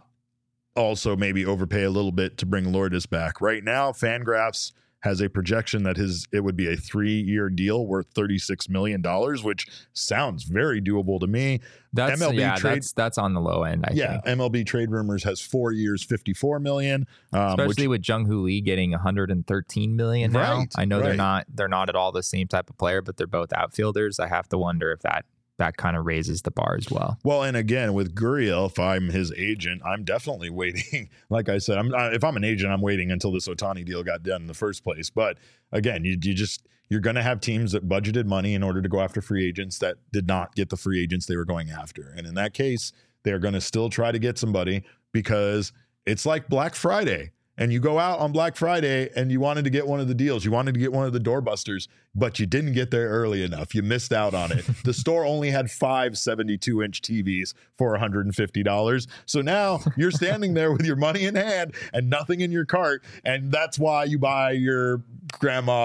also maybe overpay a little bit to bring Lourdes back? Right now, Fangraphs has a projection that his it would be a three-year deal worth thirty-six million dollars, which sounds very doable to me. That's M L B yeah, trade, that's that's on the low end. I yeah, think, M L B Trade Rumors has four years, fifty-four million, um, especially which, with Jung Hoo Lee getting one hundred thirteen million now. Right, I know they're right. not they're not at all the same type of player, but they're both outfielders. I have to wonder if that that kind of raises the bar as well. Well, and again, with Gurriel, if I'm his agent, I'm definitely waiting. Like I said, I'm, if I'm an agent, I'm waiting until this Ohtani deal got done in the first place. But again, you, you just you're going to have teams that budgeted money in order to go after free agents that did not get the free agents they were going after. And in that case, they're going to still try to get somebody because it's like Black Friday. And you go out on Black Friday and you wanted to get one of the deals. You wanted to get one of the doorbusters, but you didn't get there early enough. You missed out on it. The store only had five seventy-two inch T Vs for one hundred fifty dollars. So now you're standing there with your money in hand and nothing in your cart. And that's why you buy your grandma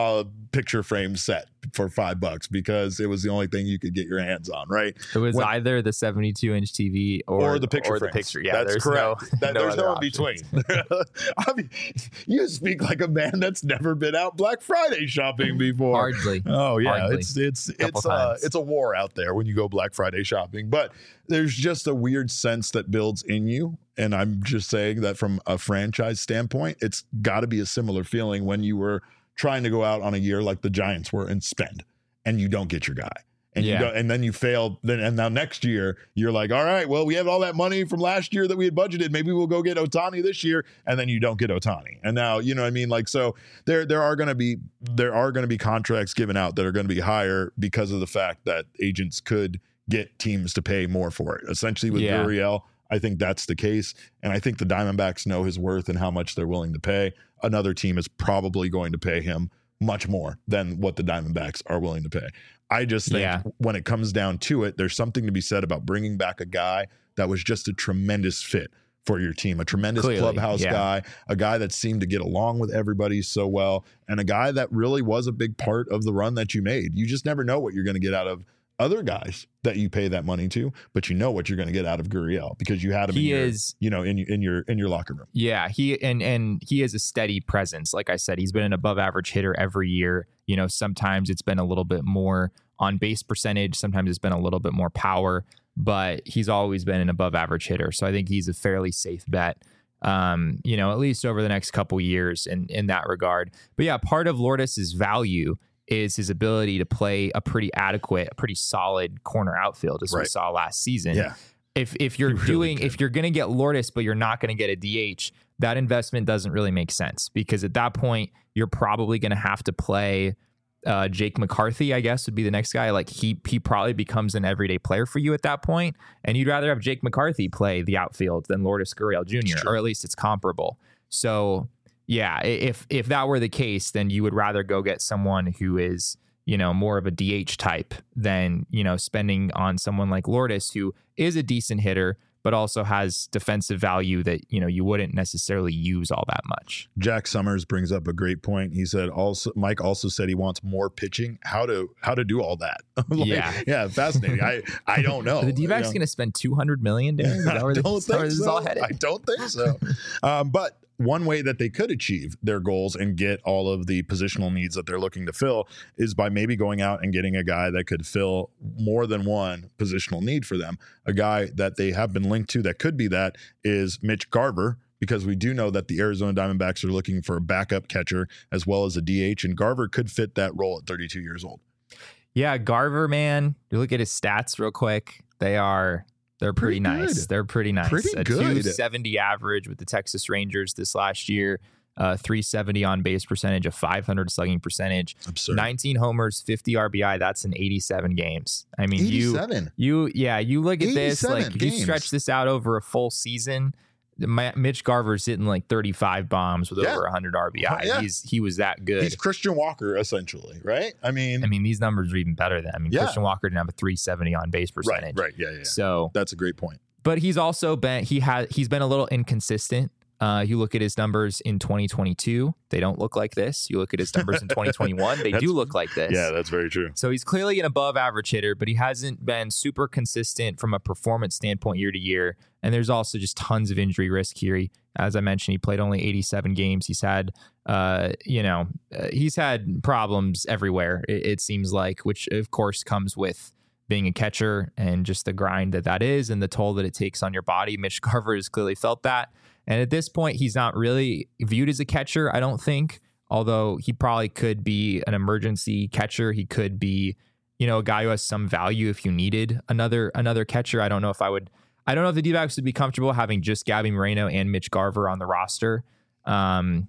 picture frame set for five bucks because it was the only thing you could get your hands on, right? It was When- either the seventy-two inch T V or, or the picture or the frames. picture. Yeah, that's there's correct. No, that, no there's other no in options. between. I mean, you speak like a man that's never been out Black Friday shopping before. Hardly. Oh yeah, Hardly. it's it's Couple it's uh, times. it's a war out there when you go Black Friday shopping. But there's just a weird sense that builds in you, and I'm just saying that from a franchise standpoint, it's got to be a similar feeling when you were trying to go out on a year like the Giants were and spend, and you don't get your guy. And Yeah. you don't, and then you failed. Then and now next year you're like, all right, well, we have all that money from last year that we had budgeted. Maybe we'll go get Ohtani this year, and then you don't get Ohtani. And now you know what I mean. Like so, there there are going to be there are going to be contracts given out that are going to be higher because of the fact that agents could get teams to pay more for it. Essentially, with Yeah. Gurriel, I think that's the case, and I think the Diamondbacks know his worth and how much they're willing to pay. Another team is probably going to pay him much more than what the Diamondbacks are willing to pay. I just think Yeah. when it comes down to it, there's something to be said about bringing back a guy that was just a tremendous fit for your team, a tremendous Clearly, clubhouse yeah. guy, a guy that seemed to get along with everybody so well, and a guy that really was a big part of the run that you made. You just never know what you're going to get out of other guys that you pay that money to, but you know what you're going to get out of Gurriel because you had him He in your, is- you know, in in your in your locker room. Yeah, he and and he is a steady presence. Like I said, he's been an above average hitter every year. You know, sometimes it's been a little bit more on base percentage, sometimes it's been a little bit more power, but he's always been an above average hitter. So I think he's a fairly safe bet. Um, you know, at least over the next couple years in in that regard. But yeah, part of Lourdes's value is his ability to play a pretty adequate, a pretty solid corner outfield, as we Right. saw last season. Yeah. If if you're He really doing can. if you're going to get Lourdes, but you're not going to get a D H, that investment doesn't really make sense because at that point you're probably going to have to play uh, Jake McCarthy. I guess would be the next guy. Like he he probably becomes an everyday player for you at that point, and you'd rather have Jake McCarthy play the outfield than Lourdes Gurriel Junior, It's true. or at least it's comparable. So yeah, i- if if that were the case, then you would rather go get someone who is, you know, more of a D H type than, you know, spending on someone like Lourdes, who is a decent hitter, but also has defensive value that, you know, you wouldn't necessarily use all that much. Jack Summers brings up a great point. He said also Mike also said he wants more pitching. How to how to do all that? Like, Yeah. yeah, fascinating. I I don't know. Are the D-backs You know? going to spend two hundred million dollars? Is that where I this, don't is that where think this is so. all headed? I don't think so. um, but one way that they could achieve their goals and get all of the positional needs that they're looking to fill is by maybe going out and getting a guy that could fill more than one positional need for them. A guy that they have been linked to that could be that is Mitch Garver, because we do know that the Arizona Diamondbacks are looking for a backup catcher as well as a D H, and Garver could fit that role at thirty-two years old. Yeah, Garver, man. You look at his stats real quick. They are they're pretty, Pretty nice. good. They're pretty nice. Pretty a good. two seventy average with the Texas Rangers this last year. Uh, three seventy on base percentage, a five hundred slugging percentage, Absurd. nineteen homers, fifty R B I. That's in eighty-seven games. I mean, you eighty-seven. you yeah, you look at this like eighty-seven if you games. stretch this out over a full season. My, Mitch Garver's hitting like thirty-five bombs with Yeah. over one hundred R B I. Yeah. He's he was that good. He's Christian Walker, essentially, right? I mean, I mean, these numbers are even better than I mean, Yeah. Christian Walker didn't have a three seventy on base right, percentage. right. Yeah, yeah, yeah. So, That's a great point. but he's also been he had he's been a little inconsistent. Uh, you look at his numbers in twenty twenty-two, they don't look like this. You look at his numbers in twenty twenty-one, they That's- do look like this. Yeah, that's very true. So he's clearly an above average hitter, but he hasn't been super consistent from a performance standpoint year to year. And there's also just tons of injury risk here. He, as I mentioned, he played only eighty-seven games. He's had, uh, you know, uh, he's had problems everywhere, it, it seems like, which of course comes with being a catcher and just the grind that that is and the toll that it takes on your body. Mitch Garver has clearly felt that. And at this point, he's not really viewed as a catcher, I don't think. Although he probably could be an emergency catcher. He could be, you know, a guy who has some value if you needed another another catcher. I don't know if I would. I don't know if the D-backs would be comfortable having just Gabby Moreno and Mitch Garver on the roster. Um,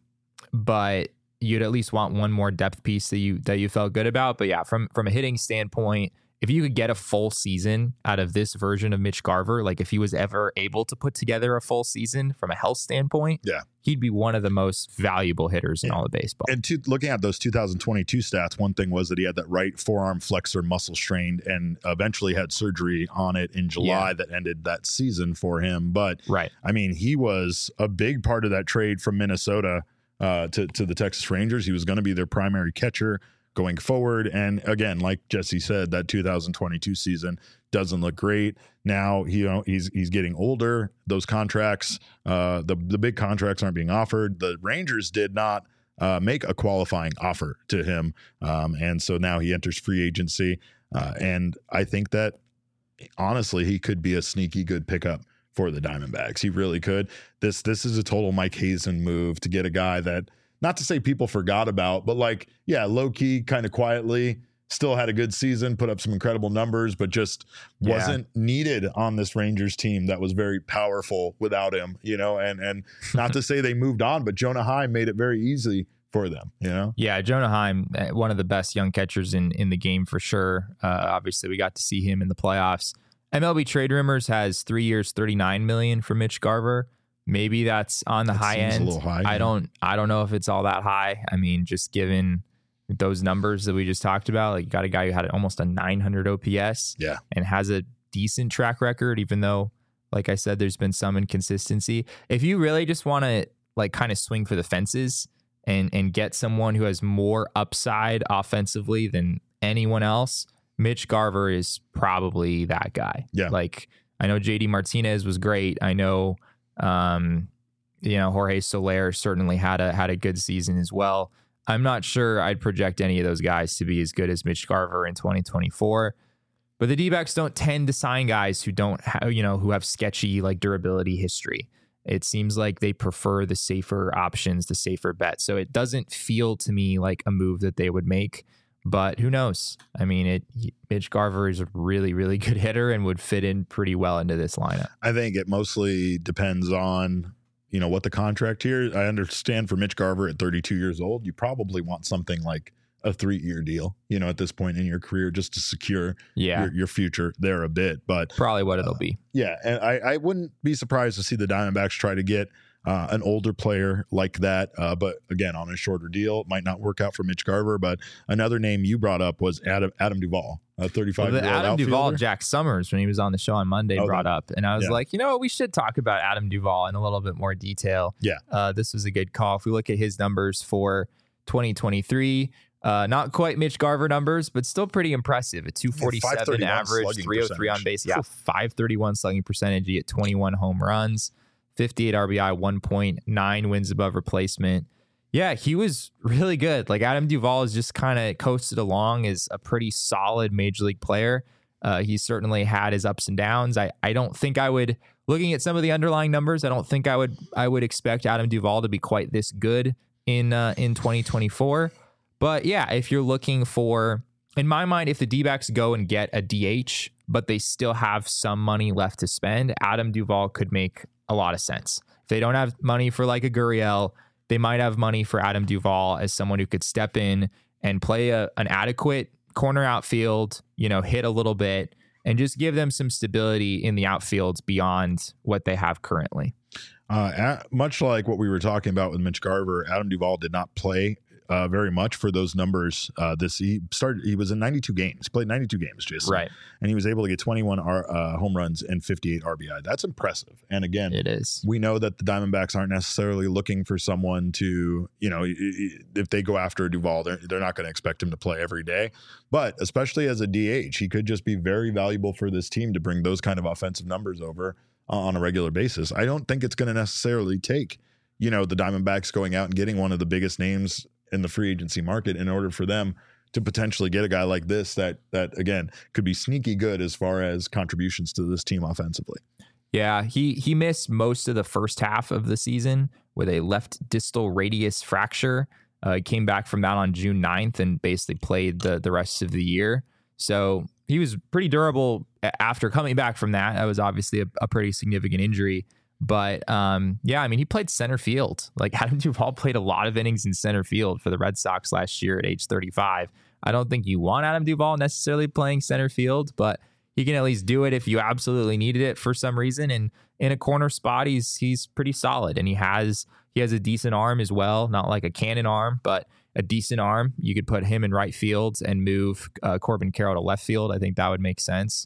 but you'd at least want one more depth piece that you that you felt good about. But yeah, from from a hitting standpoint, if you could get a full season out of this version of Mitch Garver, like if he was ever able to put together a full season from a health standpoint, Yeah. he'd be one of the most valuable hitters in Yeah. all of baseball. And to, looking at those two thousand twenty-two stats, one thing was that he had that right forearm flexor muscle strained and eventually had surgery on it in July Yeah. that ended that season for him. But Right. I mean, he was a big part of that trade from Minnesota uh, to, to the Texas Rangers. He was going to be their primary catcher. going forward. And again, like Jesse said, that two thousand twenty-two season doesn't look great. Now he, you know, he's he's getting older. Those contracts, uh, the the big contracts aren't being offered. The Rangers did not uh, make a qualifying offer to him, um, and so now he enters free agency. Uh, and I think that honestly, he could be a sneaky good pickup for the Diamondbacks. He really could. This this is a total Mike Hazen move to get a guy that, not to say people forgot about, but like, yeah, low key, kind of quietly. Still had a good season, put up some incredible numbers, but just wasn't yeah. needed on this Rangers team that was very powerful without him, you know, and and not to say they moved on, but Jonah Heim made it very easy for them, you know? Yeah, Jonah Heim, one of the best young catchers in, in the game for sure. Uh, obviously, we got to see him in the playoffs. M L B Trade Rumors has three years, thirty-nine million dollars for Mitch Garver. Maybe that's on the that high end. A little high, I yeah. don't I don't know if it's all that high. I mean, just given those numbers that we just talked about, like you got a guy who had almost a nine hundred O P S yeah. and has a decent track record, even though, like I said, there's been some inconsistency. If you really just want to like kind of swing for the fences and, and get someone who has more upside offensively than anyone else, Mitch Garver is probably that guy. Yeah. Like I know J D Martinez was great. I know, um, you know, Jorge Soler certainly had a, had a good season as well. I'm not sure I'd project any of those guys to be as good as Mitch Garver in twenty twenty-four, but the D-backs don't tend to sign guys who don't have, you know, who have sketchy like durability history. It seems like they prefer the safer options, the safer bets. So it doesn't feel to me like a move that they would make, but who knows? I mean, it Mitch Garver is a really, really good hitter and would fit in pretty well into this lineup. I think it mostly depends on, you know, what the contract here. I understand for Mitch Garver at thirty-two years old, you probably want something like a three-year deal, you know, at this point in your career, just to secure yeah. your, your future there a bit. But probably what it'll uh, be. Yeah. And I, I wouldn't be surprised to see the Diamondbacks try to get uh, an older player like that. Uh, but again, on a shorter deal, it might not work out for Mitch Garver. But another name you brought up was Adam, Adam Duvall. A thirty-five well, year old Adam outfielder. Duvall, Jack Summers, when he was on the show on Monday, okay. brought up. And I was yeah. like, you know what? We should talk about Adam Duvall in a little bit more detail. Yeah. Uh, this was a good call. If we look at his numbers for twenty twenty-three, uh, not quite Mitch Garver numbers, but still pretty impressive. A two forty-seven yeah, average, three oh three on base. Yeah, five thirty-one slugging percentage. He hit twenty-one home runs, fifty-eight R B I, one point nine wins above replacement. Yeah, he was really good. Like Adam Duvall has just kind of coasted along as a pretty solid major league player. Uh, he certainly had his ups and downs. I, I don't think I would, looking at some of the underlying numbers, I don't think I would I would expect Adam Duvall to be quite this good in uh, in twenty twenty-four. But yeah, if you're looking for, in my mind, if the D-backs go and get a D H, but they still have some money left to spend, Adam Duvall could make a lot of sense. If they don't have money for like a Gurriel, they might have money for Adam Duvall as someone who could step in and play a, an adequate corner outfield, you know, hit a little bit and just give them some stability in the outfield beyond what they have currently. Uh, at, much like what we were talking about with Mitch Garver, Adam Duvall did not play uh, very much for those numbers. Uh, this he started. He was in ninety-two games. Played ninety-two games, Jason. Right. And he was able to get twenty-one R, uh, home runs and fifty-eight R B I. That's impressive. And again, it is. We know that the Diamondbacks aren't necessarily looking for someone to, you know, if they go after a Duvall, they're they're not going to expect him to play every day. But especially as a D H, he could just be very valuable for this team to bring those kind of offensive numbers over on a regular basis. I don't think it's going to necessarily take, you know, the Diamondbacks going out and getting one of the biggest names in the free agency market in order for them to potentially get a guy like this that, that again, could be sneaky good as far as contributions to this team offensively. Yeah, he he missed most of the first half of the season with a left distal radius fracture. Uh, he came back from that on June ninth and basically played the, the rest of the year. So he was pretty durable after coming back from that. That was obviously a, a pretty significant injury. But um, yeah, I mean, he played center field. Like Adam Duvall played a lot of innings in center field for the Red Sox last year at age thirty-five. I don't think you want Adam Duvall necessarily playing center field, but he can at least do it if you absolutely needed it for some reason. And in a corner spot, he's he's pretty solid, and he has he has a decent arm as well. Not like a cannon arm, but a decent arm. You could put him in right field and move uh, Corbin Carroll to left field. I think that would make sense.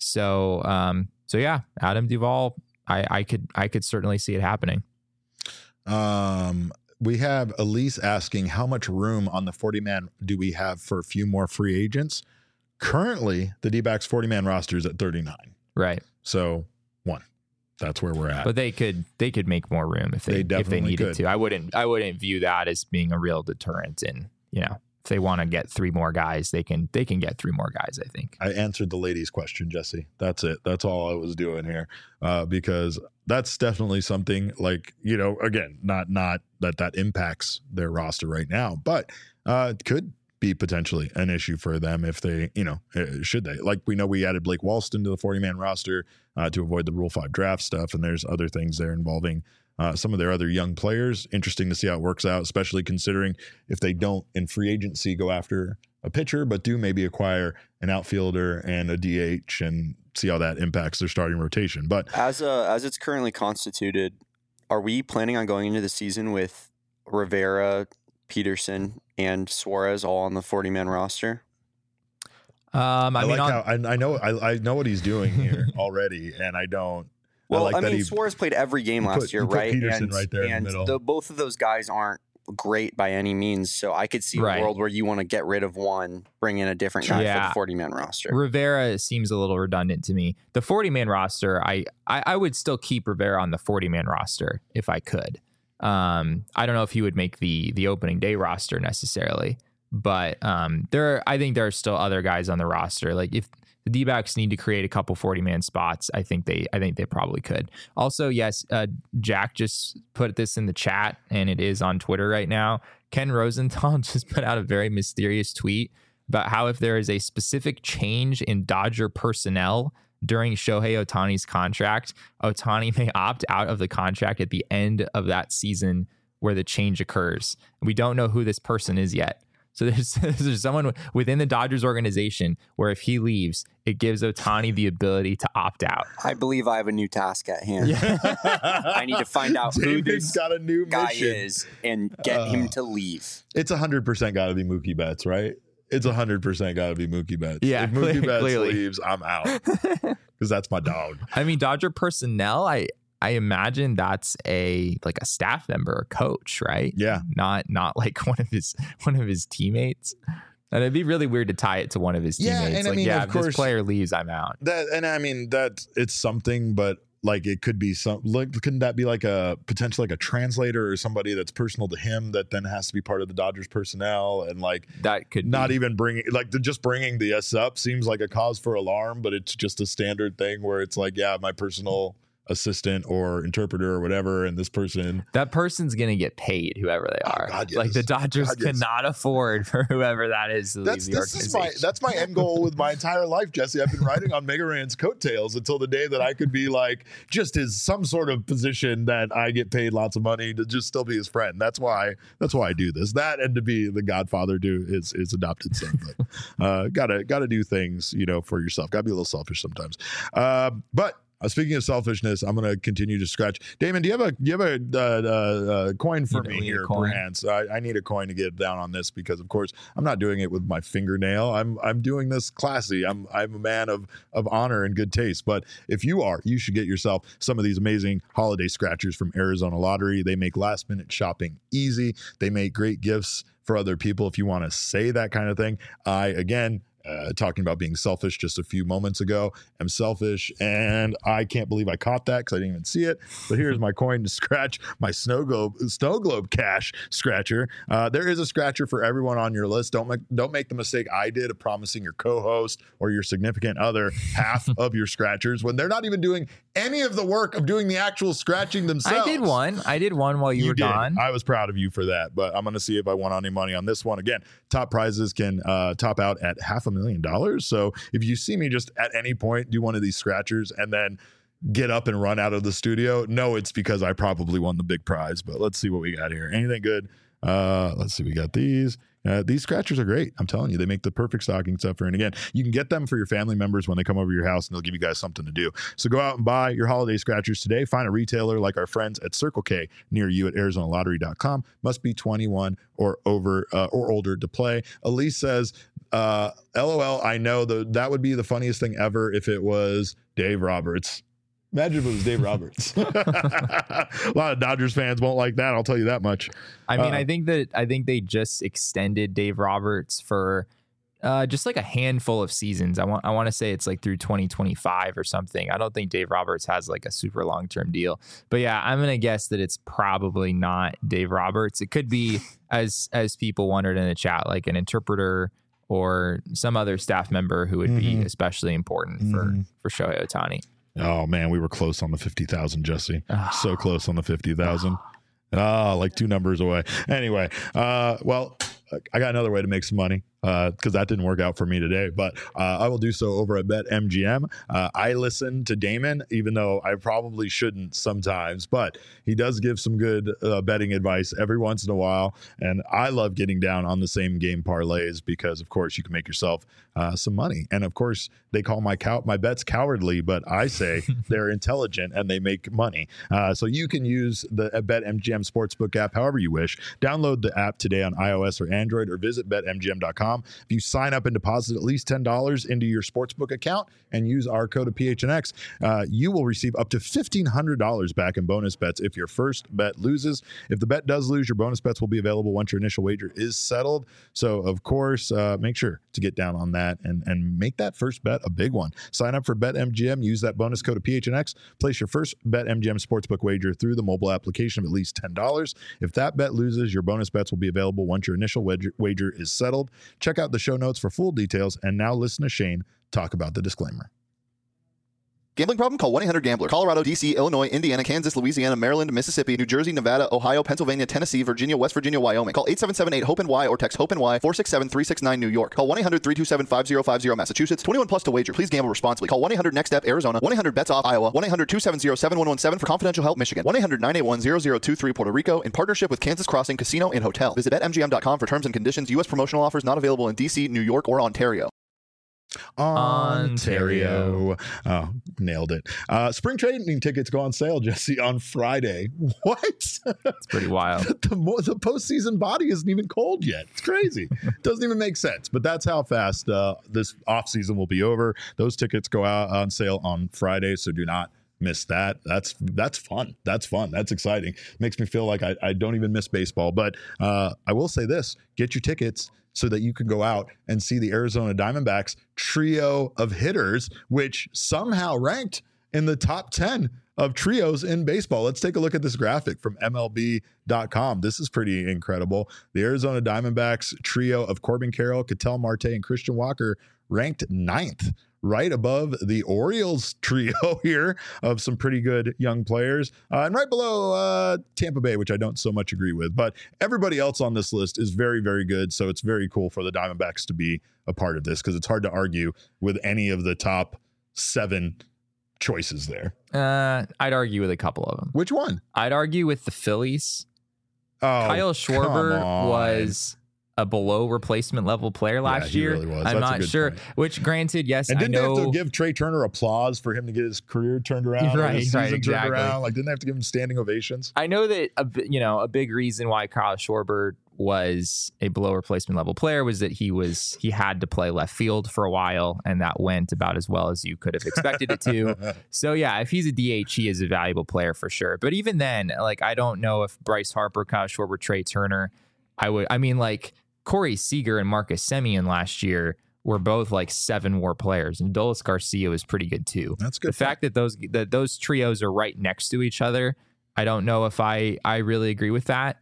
So um, so yeah, Adam Duvall. I, I could I could certainly see it happening. Um, we have Elise asking how much room on the forty man do we have for a few more free agents? Currently, the D-backs forty man roster is at thirty-nine. Right. So one, that's where we're at. But they could they could make more room if they, They if they definitely needed could. to. I wouldn't I wouldn't view that as being a real deterrent. And you know, if they want to get three more guys, they can they can get three more guys. I think. I answered the ladies' question, Jesse. That's it. That's all I was doing here, uh, because that's definitely something like, you know, again, not not that that impacts their roster right now, but uh, it could be potentially an issue for them if they, you know, uh, should they. Like we know we added Blake Walston to the forty man roster uh, to avoid the Rule five draft stuff, and there's other things there involving uh, some of their other young players. Interesting to see how it works out, especially considering if they don't in free agency go after a pitcher, but do maybe acquire an outfielder and a D H and see how that impacts their starting rotation. But As uh, as it's currently constituted, are we planning on going into the season with Rivera, Peterson, and Suarez all on the forty man roster? Um, I, I, mean, like on, how I, I know I, I know what he's doing here already, and I don't. Well, I, like I that mean, he, Suarez played every game he last put- year, he put right? Peterson and right there in the and middle. The, both of those guys aren't great by any means, so I could see Right. a world where you want to get rid of one, bring in a different guy for Yeah. the forty man roster. Rivera seems a little redundant to me. The forty man roster, I, I I would still keep Rivera on the forty man roster if I could. Um, I don't know if he would make the the opening day roster necessarily, but um, there are, I think there are still other guys on the roster. Like if the D-backs need to create a couple forty man spots, I think they I think they probably could. Also, yes, uh, Jack just put this in the chat, and it is on Twitter right now. Ken Rosenthal just put out a very mysterious tweet about how if there is a specific change in Dodger personnel during Shohei Ohtani's contract, Ohtani may opt out of the contract at the end of that season where the change occurs. We don't know who this person is yet. So there's, there's someone within the Dodgers organization where if he leaves, it gives Ohtani the ability to opt out. I believe I have a new task at hand. I need to find out who David's this got a new guy mission. is and get Uh, him to leave. It's one hundred percent got to be Mookie Betts, right? It's one hundred percent got to be Mookie Betts. Yeah, if Mookie cle- Betts clearly. leaves, I'm out because that's my dog. I mean, Dodger personnel, I I imagine that's a like a staff member, a coach, right? Yeah. Not not like one of his one of his teammates. And it'd be really weird to tie it to one of his Yeah, teammates. and I like, mean, yeah, of if course- this player leaves, I'm out. That and I mean that it's something, but like it could be some. Like, couldn't that be like a potentially like a translator or somebody that's personal to him that then has to be part of the Dodgers personnel and like That could not be. even bringing like the, just bringing the S up seems like a cause for alarm, but it's just a standard thing where it's like, yeah, my personal assistant or interpreter or whatever, and this person. That person's gonna get paid, whoever they Oh, are. God, yes. Like the Dodgers God, yes. cannot afford for whoever that is to That's leave the this is my organization. that's my end goal with my entire life, Jesse. I've been riding on Mega Ran's coattails until the day that I could be like just as some sort of position that I get paid lots of money to just still be his friend. That's why that's why I do this. That and to be the godfather to his his adopted son. But uh, gotta gotta do things, you know, for yourself. Gotta be a little selfish sometimes. Uh, but. Uh, speaking of selfishness, I'm going to continue to scratch. Damon, do you have a do you have a uh, uh, uh, coin for You me need a here, coin. perchance? I, I need a coin to get down on this because, of course, I'm not doing it with my fingernail. I'm I'm doing this classy. I'm I'm a man of of honor and good taste. But if you are, you should get yourself some of these amazing holiday scratchers from Arizona Lottery. They make last minute shopping easy. They make great gifts for other people. If you want to say that kind of thing, I again. Uh, talking about being selfish just a few moments ago. I'm selfish, and I can't believe I caught that because I didn't even see it. But here's my coin to scratch my snow globe, snow globe cash scratcher. Uh, there is a scratcher for everyone on your list. Don't make don't make the mistake I did of promising your co-host or your significant other half of your scratchers when they're not even doing any of the work of doing the actual scratching themselves. I did one. I did one while you, were did. gone. I was proud of you for that, but I'm going to see if I won any money on this one. Again, top prizes can uh, top out at half a million dollars. So if you see me just at any point do one of these scratchers and then get up and run out of the studio, no, it's because I probably won the big prize. But let's see what we got here. Anything good? Uh, let's see. We got these. Uh, these scratchers are great. I'm telling you, they make the perfect stocking stuffer. And again, you can get them for your family members when they come over to your house, and they'll give you guys something to do. So go out and buy your holiday scratchers today. Find a retailer like our friends at Circle K near you at Arizona Lottery dot com. Must be twenty-one or over uh, or older to play. Elise says, uh, "L O L. I know the that would be the funniest thing ever if it was Dave Roberts." Imagine if it was Dave Roberts. A lot of Dodgers fans won't like that. I'll tell you that much. I mean, uh, I think that I think they just extended Dave Roberts for uh, just like a handful of seasons. I want I want to say it's like through twenty twenty-five or something. I don't think Dave Roberts has like a super long term deal. But yeah, I'm gonna guess that it's probably not Dave Roberts. It could be, as as people wondered in the chat, like an interpreter or some other staff member who would mm-hmm. be especially important mm-hmm. for for Shohei Ohtani. Oh man, we were close on the fifty thousand, Jesse. Oh. So close on the fifty thousand. Ah, oh, like two numbers away. Anyway, uh, well, I got another way to make some money because uh, that didn't work out for me today, but uh, I will do so over at BetMGM. Uh, I listen to Damon, even though I probably shouldn't sometimes, but he does give some good uh, betting advice every once in a while, and I love getting down on the same game parlays because, of course, you can make yourself uh, some money. And, of course, they call my cow- my bets cowardly, but I say they're intelligent and they make money. Uh, so you can use the BetMGM Sportsbook app however you wish. Download the app today on iOS or Android or visit bet M G M dot com. If you sign up and deposit at least ten dollars into your sportsbook account and use our code of P H N X, uh, you will receive up to fifteen hundred dollars back in bonus bets if your first bet loses. If the bet does lose, your bonus bets will be available once your initial wager is settled. So, of course, uh, make sure to get down on that and, and make that first bet a big one. Sign up for BetMGM. Use that bonus code of P H N X. Place your first BetMGM sportsbook wager through the mobile application of at least ten dollars. If that bet loses, your bonus bets will be available once your initial wager, wager is settled. Check out the show notes for full details. And now listen to Shane talk about the disclaimer. Gambling problem? Call one eight hundred gambler. Colorado, D C, Illinois, Indiana, Kansas, Louisiana, Maryland, Mississippi, New Jersey, Nevada, Ohio, Pennsylvania, Tennessee, Virginia, West Virginia, Wyoming. Call eight seven seven eight hope N Y or text HOPE-NY four six seven three six nine New York. Call one eight hundred three two seven five zero five zero Massachusetts. twenty-one plus to wager. Please gamble responsibly. Call one eight hundred next step Arizona. one eight hundred bets off Iowa. one eight hundred two seven zero seven one one seven for confidential help Michigan. one eight hundred nine eight one zero zero two three Puerto Rico in partnership with Kansas Crossing Casino and Hotel. Visit bet M G M dot com for terms and conditions. U S promotional offers not available in D C, New York, or Ontario. Ontario. Oh, nailed it. Uh, spring training tickets go on sale, Jesse, on Friday. What? It's pretty wild. the, mo- the postseason body isn't even cold yet. It's crazy. Doesn't even make sense. But that's how fast uh, this offseason will be over. Those tickets go out on sale on Friday, so do not miss that. That's that's fun. That's fun. That's exciting. Makes me feel like I, I don't even miss baseball. But uh, I will say this. Get your tickets so that you can go out and see the Arizona Diamondbacks trio of hitters, which somehow ranked in the top ten of trios in baseball. Let's take a look at this graphic from M L B dot com. This is pretty incredible. The Arizona Diamondbacks trio of Corbin Carroll, Ketel Marte, and Christian Walker ranked ninth, right above the Orioles trio here of some pretty good young players. Uh, and right below uh, Tampa Bay, which I don't so much agree with. But everybody else on this list is very, very good. So it's very cool for the Diamondbacks to be a part of this because it's hard to argue with any of the top seven choices there. Uh, I'd argue with a couple of them. Which one? I'd argue with the Phillies. Oh, Kyle Schwarber was a below replacement level player last yeah, he year. Really was. I'm That's not sure. Point. Which, granted, yes, and didn't I know. they have to give Trey Turner applause for him to get his career turned around? Right, his right, season exactly. Turned around? Like, didn't they have to give him standing ovations? I know that a, you know a big reason why Kyle Schwarber was a below replacement level player was that he was he had to play left field for a while, and that went about as well as you could have expected it to. So yeah, if he's a D H, he is a valuable player for sure. But even then, like, I don't know if Bryce Harper, Kyle Schwarber, Trey Turner, I would. I mean, like Corey Seager and Marcus Semien last year were both like seven WAR players, and Dolis Garcia was pretty good too. That's good. The fact that those that those trios are right next to each other, I don't know if I I really agree with that.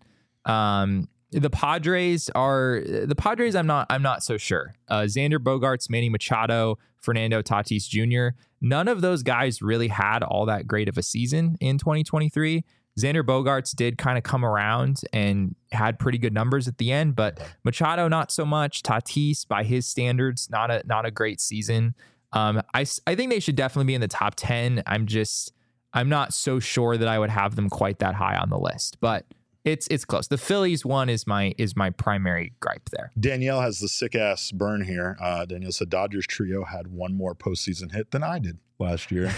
Um, The Padres are the Padres. I'm not. I'm not so sure. Uh, Xander Bogaerts, Manny Machado, Fernando Tatis Junior None of those guys really had all that great of a season in twenty twenty-three. Xander Bogaerts did kind of come around and had pretty good numbers at the end, but Machado not so much. Tatis, by his standards, not a not a great season. Um, I I think they should definitely be in the top ten. I'm just I'm not so sure that I would have them quite that high on the list, but. It's it's close. The Phillies one is my is my primary gripe there. Danielle has the sick ass burn here. Uh, Danielle said Dodgers trio had one more postseason hit than I did last year.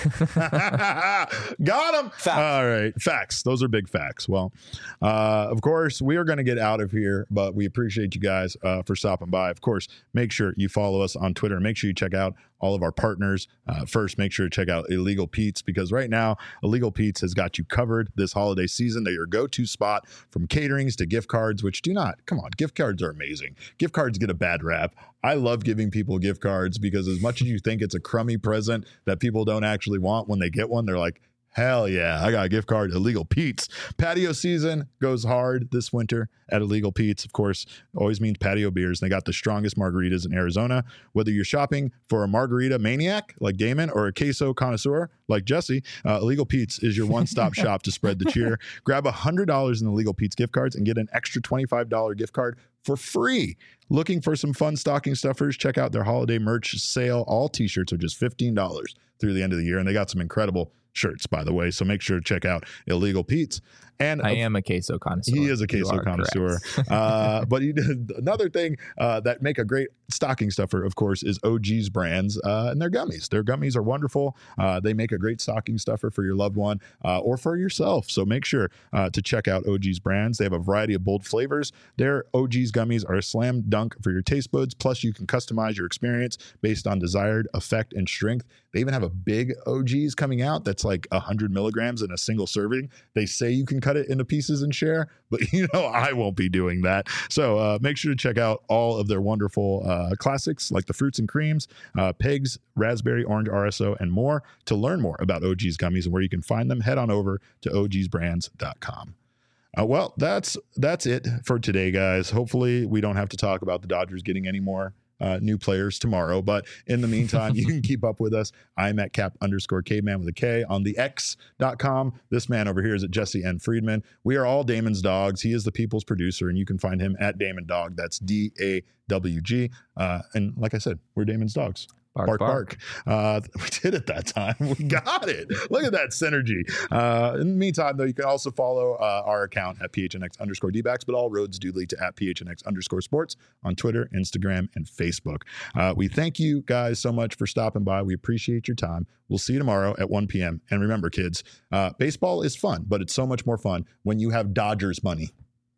Got him. Facts. All right. Facts. Those are big facts. Well, uh, of course, we are going to get out of here, but we appreciate you guys uh, for stopping by. Of course, make sure you follow us on Twitter. Make sure you check out all of our partners. Uh, first, make sure to check out Illegal Pete's, because right now, Illegal Pete's has got you covered this holiday season. They're your go-to spot, from caterings to gift cards, which do not, come on, gift cards are amazing. Gift cards get a bad rap. I love giving people gift cards because as much as you think it's a crummy present that people don't actually want, when they get one, they're like, hell yeah, I got a gift card. Illegal Pete's. Patio season goes hard this winter at Illegal Pete's. Of course, always means patio beers. They got the strongest margaritas in Arizona. Whether you're shopping for a margarita maniac like Damon or a queso connoisseur like Jesse, uh, Illegal Pete's is your one-stop shop to spread the cheer. Grab one hundred dollars in Illegal Pete's gift cards and get an extra twenty-five dollars gift card for free. Looking for some fun stocking stuffers? Check out their holiday merch sale. All t-shirts are just fifteen dollars through the end of the year, and they got some incredible shirts, by the way. So make sure to check out Illegal Pete's. And I am a queso connoisseur. He is a queso connoisseur. uh, but he did another thing uh, that make a great stocking stuffer, of course, is O G's brands uh, and their gummies. Their gummies are wonderful. Uh, they make a great stocking stuffer for your loved one uh, or for yourself. So make sure uh, to check out O G's brands. They have a variety of bold flavors. Their O G's gummies are a slam dunk for your taste buds. Plus, you can customize your experience based on desired effect and strength. They even have a big O G's coming out that's like one hundred milligrams in a single serving. They say you can cut it into pieces and share, but you know I won't be doing that. So uh, make sure to check out all of their wonderful uh, classics like the fruits and creams, uh, pigs, raspberry, orange R S O, and more. To learn more about O G's gummies and where you can find them, head on over to o gs brands dot com. Uh, well, that's that's it for today, guys. Hopefully we don't have to talk about the Dodgers getting any more Uh, new players tomorrow. But in the meantime, you can keep up with us. I'm at cap underscore caveman with a K on the X dot com. This man over here is at Jesse N. Friedman. We are all Damon's dogs. He is the people's producer, and you can find him at Damon Dog. That's D A W G. Uh, and like I said, we're Damon's dogs. Bark, Bark, bark. bark. Uh, we did it that time. We got it. Look at that synergy. Uh, in the meantime, though, you can also follow uh, our account at P H N X underscore D-backs, but all roads do lead to at P H N X underscore sports on Twitter, Instagram, and Facebook. Uh, we thank you guys so much for stopping by. We appreciate your time. We'll see you tomorrow at one p.m. And remember, kids, uh, baseball is fun, but it's so much more fun when you have Dodgers money.